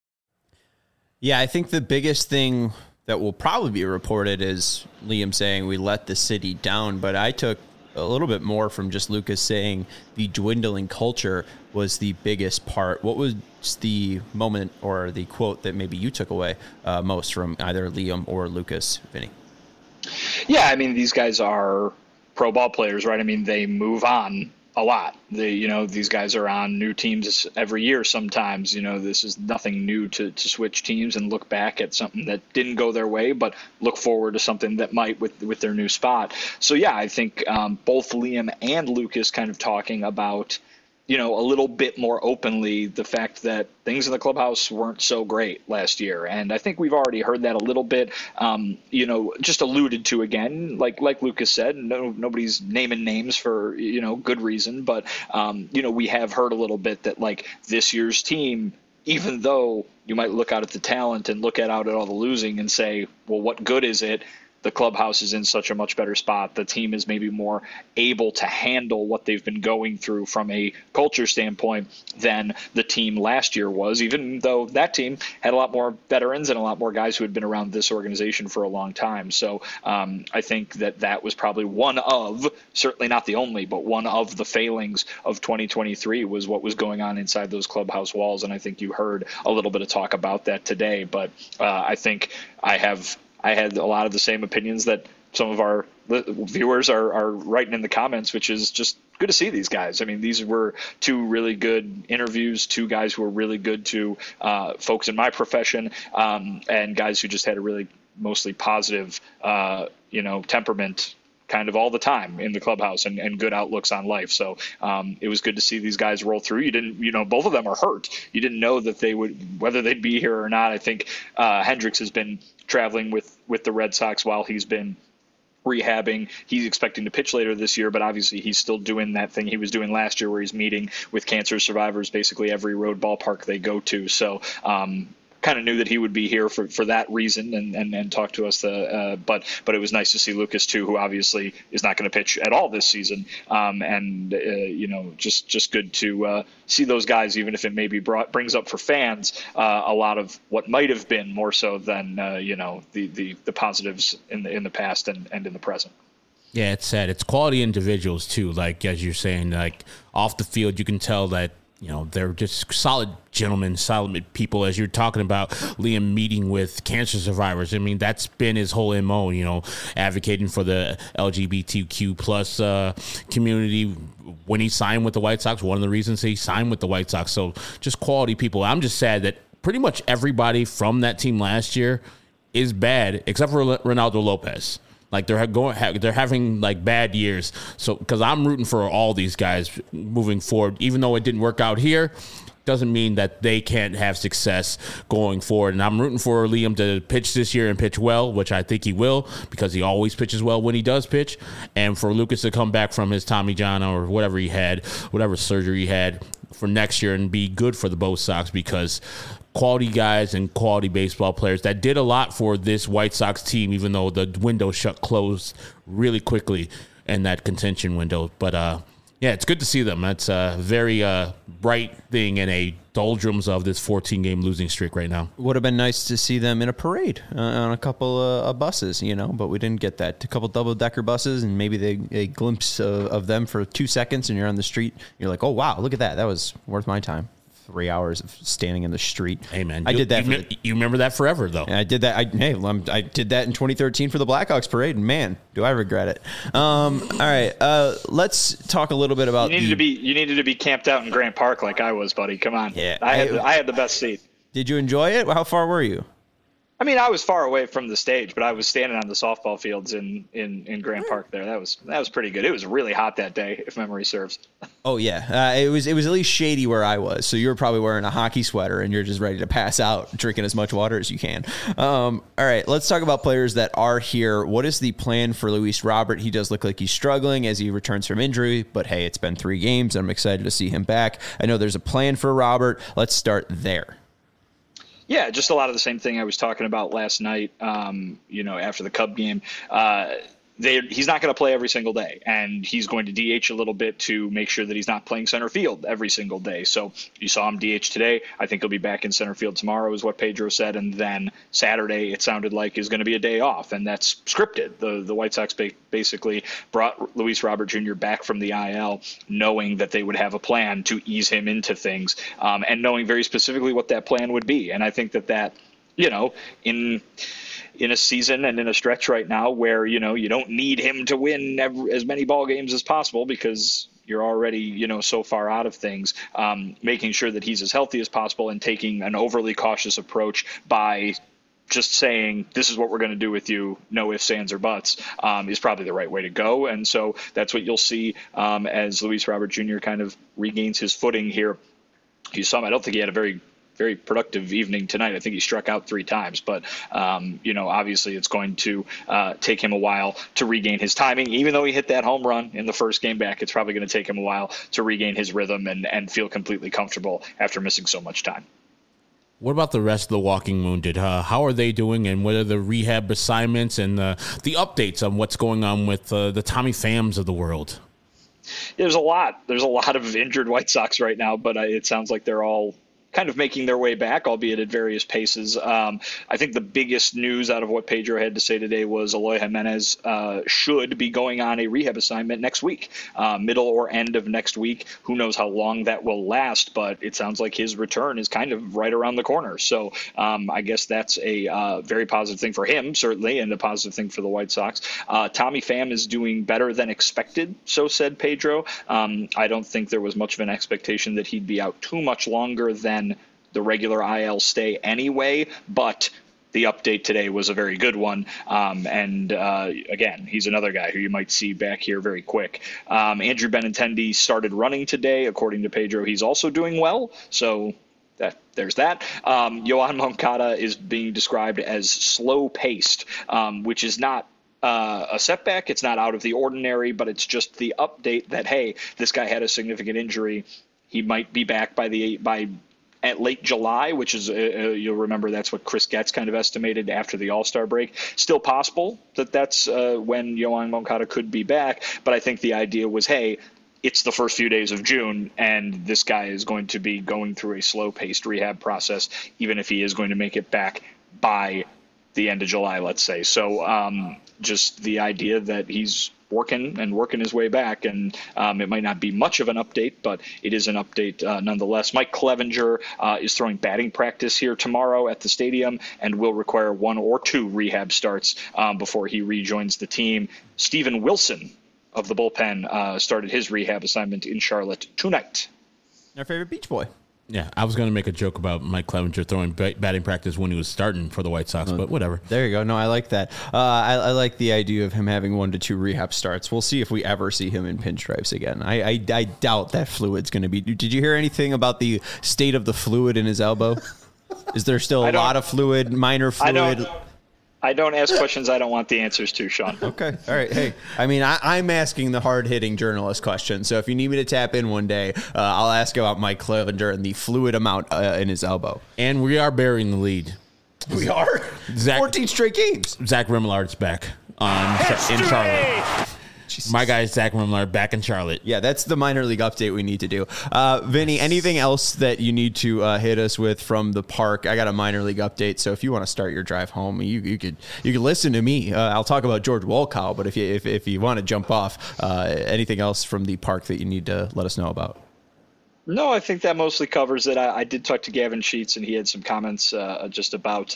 Yeah, I think the biggest thing that will probably be reported is Liam saying we let the city down, but I took a little bit more from just Lucas saying the dwindling culture was the biggest part. What was the moment or the quote that maybe you took away most from either Liam or Lucas, Vinny? Yeah, these guys are pro ball players, right? They move on a lot. These guys are on new teams every year sometimes. This is nothing new to switch teams and look back at something that didn't go their way, but look forward to something that might with their new spot. So, yeah, I think both Liam and Lucas kind of talking about, a little bit more openly the fact that things in the clubhouse weren't so great last year. And I think we've already heard that a little bit, just alluded to again, like Lucas said, nobody's naming names for, good reason. But, we have heard a little bit that like this year's team, even though you might look out at the talent and look out at all the losing and say, well, what good is it? the clubhouse is in such a much better spot. The team is maybe more able to handle what they've been going through from a culture standpoint than the team last year was, even though that team had a lot more veterans and a lot more guys who had been around this organization for a long time. So I think that was probably one of, certainly not the only, but one of the failings of 2023 was what was going on inside those clubhouse walls. And I think you heard a little bit of talk about that today. But I think I had a lot of the same opinions that some of our viewers are writing in the comments, which is just good to see these guys. I mean, these were two really good interviews, two guys who were really good to folks in my profession, and guys who just had a really mostly positive, temperament kind of all the time in the clubhouse and good outlooks on life. So it was good to see these guys roll through. You didn't, both of them are hurt. You didn't know that they would, whether they'd be here or not. I think Hendricks has been traveling with the Red Sox while he's been rehabbing. He's expecting to pitch later this year, but obviously he's still doing that thing he was doing last year where he's meeting with cancer survivors basically every road ballpark they go to. So kind of knew that he would be here for that reason and talk to us. But it was nice to see Lucas too, who obviously is not going to pitch at all this season. Just good to see those guys, even if it maybe brings up for fans a lot of what might have been more so than the positives in the past and in the present. Yeah, it's sad. It's quality individuals too. Like as you're saying, like off the field, you can tell that. They're just solid gentlemen, solid people. As you're talking about Liam meeting with cancer survivors, I mean, that's been his whole MO, advocating for the LGBTQ plus community. When he signed with the White Sox, one of the reasons he signed with the White Sox. So just quality people. I'm just sad that pretty much everybody from that team last year is bad, except for Ronaldo Lopez. Like they're having like bad years. So because I'm rooting for all these guys moving forward, even though it didn't work out here, doesn't mean that they can't have success going forward. And I'm rooting for Liam to pitch this year and pitch well, which I think he will because he always pitches well when he does pitch. And for Lucas to come back from his Tommy John or whatever surgery he had for next year and be good for the Bo Sox because quality guys and quality baseball players that did a lot for this White Sox team, even though the window closed really quickly in that contention window. But, it's good to see them. That's a very bright thing in a doldrums of this 14-game losing streak right now. Would have been nice to see them in a parade on a couple of buses, but we didn't get that. A couple double-decker buses and maybe a glimpse of them for 2 seconds and you're on the street. You're like, oh, wow, look at that. That was worth my time. 3 hours of standing in the street. Hey, man. I did that. You remember that forever, though. I did that. I did that in 2013 for the Blackhawks parade, and man, do I regret it. All right. Let's talk a little bit about you needed to be camped out in Grant Park like I was, buddy. Come on. Yeah. I had the best seat. Did you enjoy it? How far were you? I mean, I was far away from the stage, but I was standing on the softball fields in Grant Park there. That was pretty good. It was really hot that day, if memory serves. Oh yeah, it was at least shady where I was. So you were probably wearing a hockey sweater and you're just ready to pass out, drinking as much water as you can. All right, let's talk about players that are here. What is the plan for Luis Robert? He does look like he's struggling as he returns from injury, but hey, it's been 3 games. I'm excited to see him back. I know there's a plan for Robert. Let's start there. Yeah, just a lot of the same thing I was talking about last night, after the Cub game. He's not going to play every single day, and he's going to DH a little bit to make sure that he's not playing center field every single day. So you saw him DH today. I think he'll be back in center field tomorrow is what Pedro said, and then Saturday it sounded like is going to be a day off, and that's scripted. The White Sox basically brought Luis Robert Jr. back from the IL knowing that they would have a plan to ease him into things and knowing very specifically what that plan would be. And I think that in a season and in a stretch right now where, you don't need him to win as many ball games as possible because you're already, so far out of things, making sure that he's as healthy as possible and taking an overly cautious approach by just saying, this is what we're going to do with you, no ifs, ands, or buts, is probably the right way to go. And so that's what you'll see as Luis Robert Jr. kind of regains his footing here. You saw him. I don't think he had a very productive evening tonight. I think he struck out 3 times, but obviously it's going to take him a while to regain his timing. Even though he hit that home run in the first game back, it's probably going to take him a while to regain his rhythm and feel completely comfortable after missing so much time. What about the rest of the Walking Wounded? How are they doing, and what are the rehab assignments and the updates on what's going on with the Tommy Phams of the world? There's a lot of injured White Sox right now, but it sounds like they're all kind of making their way back, albeit at various paces. I think the biggest news out of what Pedro had to say today was Eloy Jimenez should be going on a rehab assignment next week, middle or end of next week. Who knows how long that will last, but it sounds like his return is kind of right around the corner. So I guess that's a very positive thing for him, certainly, and a positive thing for the White Sox. Tommy Pham is doing better than expected, so said Pedro. I don't think there was much of an expectation that he'd be out too much longer than the regular IL stay anyway, but the update today was a very good one. Again, he's another guy who you might see back here very quick. Andrew Benintendi started running today. According to Pedro, he's also doing well. So there's that. Yoan Moncada is being described as slow-paced, which is not a setback. It's not out of the ordinary, but it's just the update that, hey, this guy had a significant injury. He might be back at late July, which is, you'll remember that's what Chris Getz kind of estimated after the All-Star break. Still possible that's when Yoan Moncada could be back, but I think the idea was, hey, it's the first few days of June, and this guy is going to be going through a slow-paced rehab process, even if he is going to make it back by the end of July, let's say. So just the idea that he's working his way back, and it might not be much of an update, but it is an update nonetheless. Mike Clevenger is throwing batting practice here tomorrow at the stadium and will require 1 or 2 rehab starts before he rejoins the team. Steven Wilson of the bullpen started his rehab assignment in Charlotte tonight. Our favorite Beach Boy. Yeah, I was going to make a joke about Mike Clevenger throwing batting practice when he was starting for the White Sox, but whatever. There you go. No, I like that. I like the idea of him having 1 to 2 rehab starts. We'll see if we ever see him in pinstripes again. I doubt that fluid's going to be. Did you hear anything about the state of the fluid in his elbow? Is there still a lot of fluid, minor fluid? I don't ask questions I don't want the answers to, Sean. Okay. All right. Hey, I mean, I'm asking the hard-hitting journalist question. So if you need me to tap in one day, I'll ask about Mike Clevenger and the fluid amount in his elbow. And we are burying the lead. We are? 14 straight games. Zach Remillard's back in Charlotte. Jesus. My guy, Zach Remillard, back in Charlotte. Yeah, that's the minor league update we need to do. Vinny, anything else that you need to hit us with from the park? I got a minor league update, so if you want to start your drive home, you could listen to me. I'll talk about George Wolkow, but if you want to jump off, anything else from the park that you need to let us know about? No, I think that mostly covers it. I did talk to Gavin Sheets, and he had some comments just about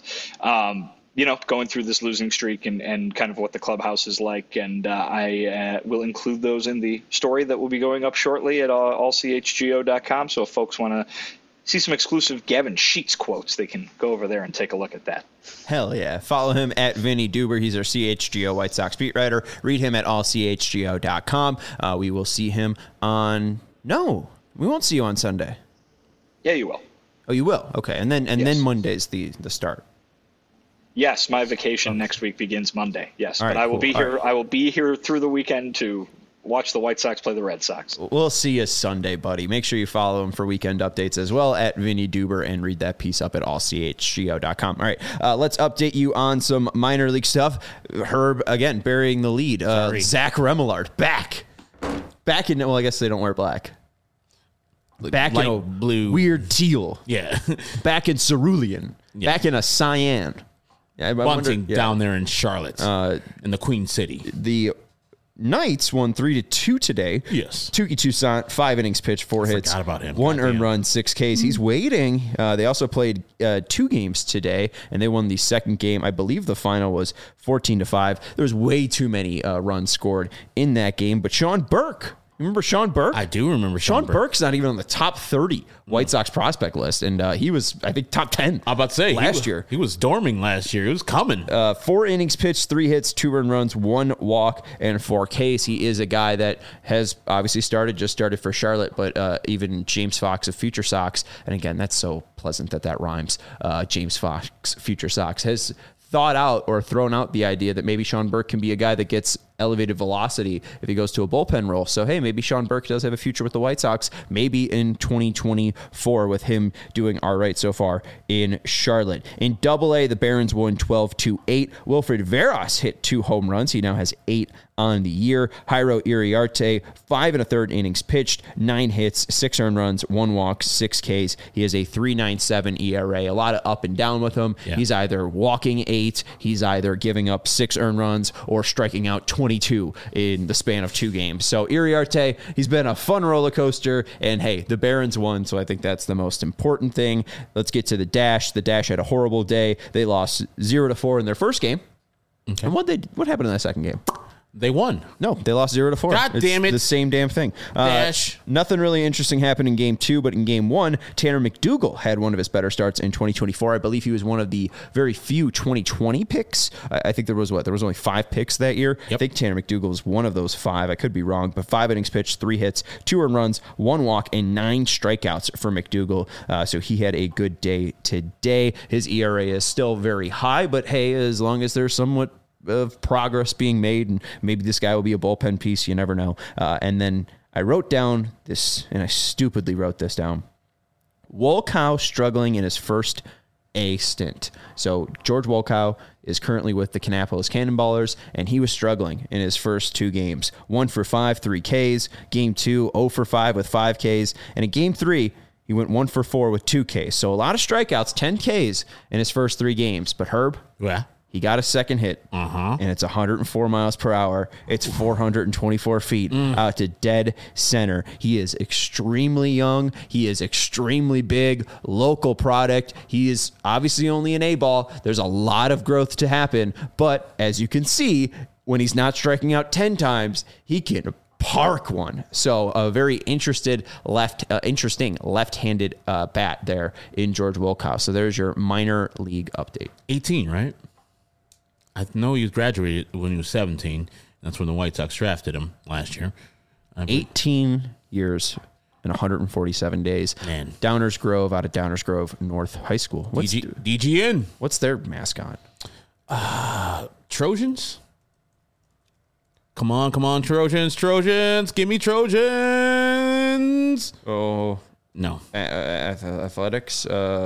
going through this losing streak and kind of what the clubhouse is like. And I will include those in the story that will be going up shortly at allchgo.com. So if folks want to see some exclusive Gavin Sheets quotes, they can go over there and take a look at that. Hell yeah. Follow him at Vinny Duber. He's our CHGO White Sox beat writer. Read him at allchgo.com. We will see him No, we won't see you on Sunday. Yeah, you will. Oh, you will? Okay. And then Monday's the start. Yes, my vacation next week begins Monday. Yes, all but right, I will cool. be here. Right. I will be here through the weekend to watch the White Sox play the Red Sox. We'll see you Sunday, buddy. Make sure you follow him for weekend updates as well at Vinny Duber and read that piece up at allchgo.com. All right, let's update you on some minor league stuff. Herb, again, burying the lead. Zach Remillard, back in, well, I guess they don't wear black. Back light in a blue. Weird teal. Yeah. Back in cerulean. Yeah. Back in a cyan. Yeah, Bunting down there in Charlotte, in the Queen City. The Knights won 3-2 today. Yes. Touki Toussaint, 5 innings pitched, 4 hits. Forgot about him. 1 earned run, 6 Ks. He's waiting. They also played 2 games today, and they won the second game. I believe the final was 14-5. There's way too many runs scored in that game. But Sean Burke. Remember Sean Burke? I do remember Sean Burke. Burke's not even on the top 30 White Sox prospect list, and he was, I think, top 10 I'm about to say, last year. He was dorming last year. He was coming. 4 innings pitched, 3 hits, 2 earned runs, 1 walk, and 4 Ks. He is a guy that has obviously just started for Charlotte, but even James Fox of Future Sox, and again, that's so pleasant that rhymes, James Fox, Future Sox, has thought out or thrown out the idea that maybe Sean Burke can be a guy that gets elevated velocity if he goes to a bullpen role. So, hey, maybe Sean Burke does have a future with the White Sox, maybe in 2024 with him doing all right so far in Charlotte. In Double-A, the Barons won 12-8. Wilfred Veras hit 2 home runs. He now has 8 on the year. Jairo Iriarte, 5 1/3 innings pitched, 9 hits, 6 earned runs, 1 walk, 6 Ks. He has a 3.97 ERA. A lot of up and down with him. Yeah. He's either walking 8, he's either giving up 6 earned runs, or striking out 22 in the span of 2 games. So Iriarte, he's been a fun roller coaster, and hey, the Barons won, so I think that's the most important thing. Let's get to the Dash. The Dash had a horrible day. They lost 0-4 in their first game. Okay. And what happened in that second game? They won. No, they lost 0-4. God damn it. The same damn thing. Dash. Nothing really interesting happened in game 2, but in game 1, Tanner McDougal had one of his better starts in 2024. I believe he was one of the very few 2020 picks. I think there was only 5 picks that year. Yep. I think Tanner McDougal was one of those 5. I could be wrong, but 5 innings pitched, 3 hits, 2 earned runs, 1 walk, and 9 strikeouts for McDougal. So he had a good day today. His ERA is still very high, but hey, as long as there's somewhat of progress being made, and maybe this guy will be a bullpen piece, you never know. And then I wrote down this, and I stupidly wrote this down. Wolkow struggling in his first A stint. So George Wolkow is currently with the Kannapolis Cannonballers, and he was struggling in his first 2 games. 1 for 5, 3 Ks. Game 2, 0 for 5 with 5 Ks. And in Game 3, he went 1 for 4 with 2 Ks. So a lot of strikeouts, 10 Ks in his first 3 games. But Herb? Yeah. He got a second hit, and it's 104 miles per hour. It's 424 feet out to dead center. He is extremely young. He is extremely big, local product. He is obviously only an A-ball. There's a lot of growth to happen, but as you can see, when he's not striking out 10 times, he can park one. So a very interesting left-handed bat there in George Wolkow. So there's your minor league update. 18, right? I know he graduated when he was 17. That's when the White Sox drafted him last year. 18 years and 147 days. Man. Downers Grove out of Downers Grove North High School. DGN. What's their mascot? Trojans? Come on, Trojans. Give me Trojans. Oh. No. Athletics.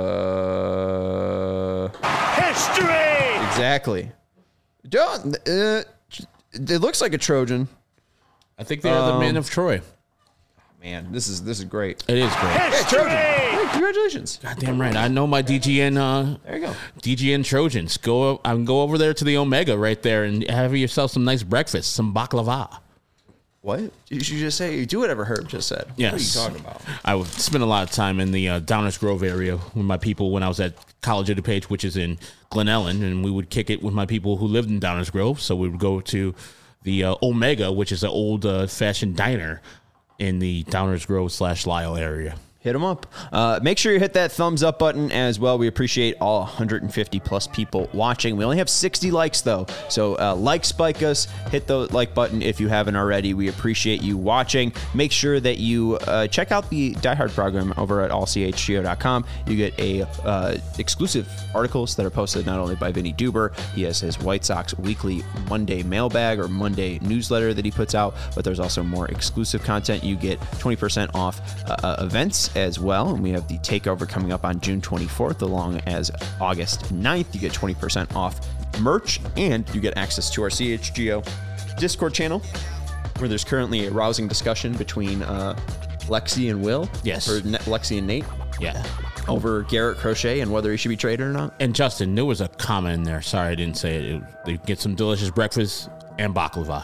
History! Exactly. It looks like a Trojan. I think they are the men of Troy. Man, this is great. It is great. Hey, Trojan. Hey, congratulations. Goddamn right. I know my DGN. There you go. DGN Trojans. Go over there to the Omega right there and have yourself some nice breakfast, some baklava. What? You should just say, do whatever Herb just said. Yes. What are you talking about? I would spend a lot of time in the Downers Grove area with my people when I was at College of DuPage, which is in Glen Ellen, and we would kick it with my people who lived in Downers Grove. So we would go to the Omega, which is an old-fashioned diner in the Downers Grove / Lyle area. Hit them up. Make sure you hit that thumbs up button as well. We appreciate all 150 plus people watching. We only have 60 likes though. So spike us, hit the like button if you haven't already. We appreciate you watching. Make sure that you check out the Die Hard program over at allchgo.com. You get exclusive articles that are posted not only by Vinny Duber. He has his White Sox weekly Monday mailbag or Monday newsletter that he puts out, but there's also more exclusive content. You get 20% off events as well, and we have the takeover coming up on June 24th along as August 9th. You get 20% off merch, and you get access to our CHGO Discord channel, where there's currently a rousing discussion between Lexi and Will. Yes. Or Lexi and Nate. Yeah. Over Garrett Crochet and whether he should be traded or not. And Justin, there was a comment in there. Sorry I didn't say it. They get some delicious breakfast and baklava.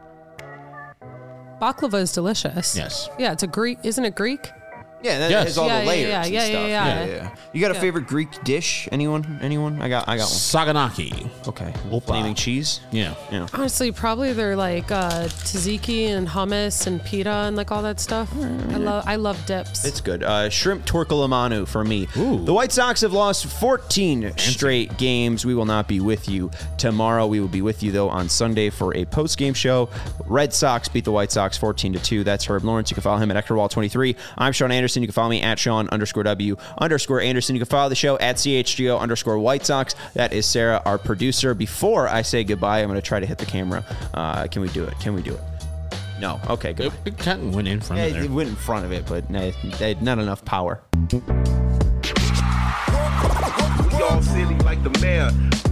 Baklava is delicious. Yes. Yeah, it's a Greek. Isn't it Greek? Yeah, that has all the layers and stuff. Yeah. You got a favorite Greek dish? Anyone? I got one. Saganaki. Okay. Opa. Flaming cheese? Yeah. Honestly, probably they're like tzatziki and hummus and pita and like all that stuff. I love dips. It's good. Shrimp torcalamanu for me. Ooh. The White Sox have lost 14 straight games. We will not be with you tomorrow. We will be with you, though, on Sunday for a post-game show. Red Sox beat the White Sox 14-2. That's Herb Lawrence. You can follow him at EctorWall23. I'm Sean Anderson. Anderson. You can follow me at Sean_W_Anderson. You can follow the show at CHGO_White Sox. That is Sarah, our producer. Before I say goodbye, I'm going to try to hit the camera. Can we do it? No. Okay, good. It kind of went in front of it. It went in front of it, but they had not enough power. We all silly like the mayor.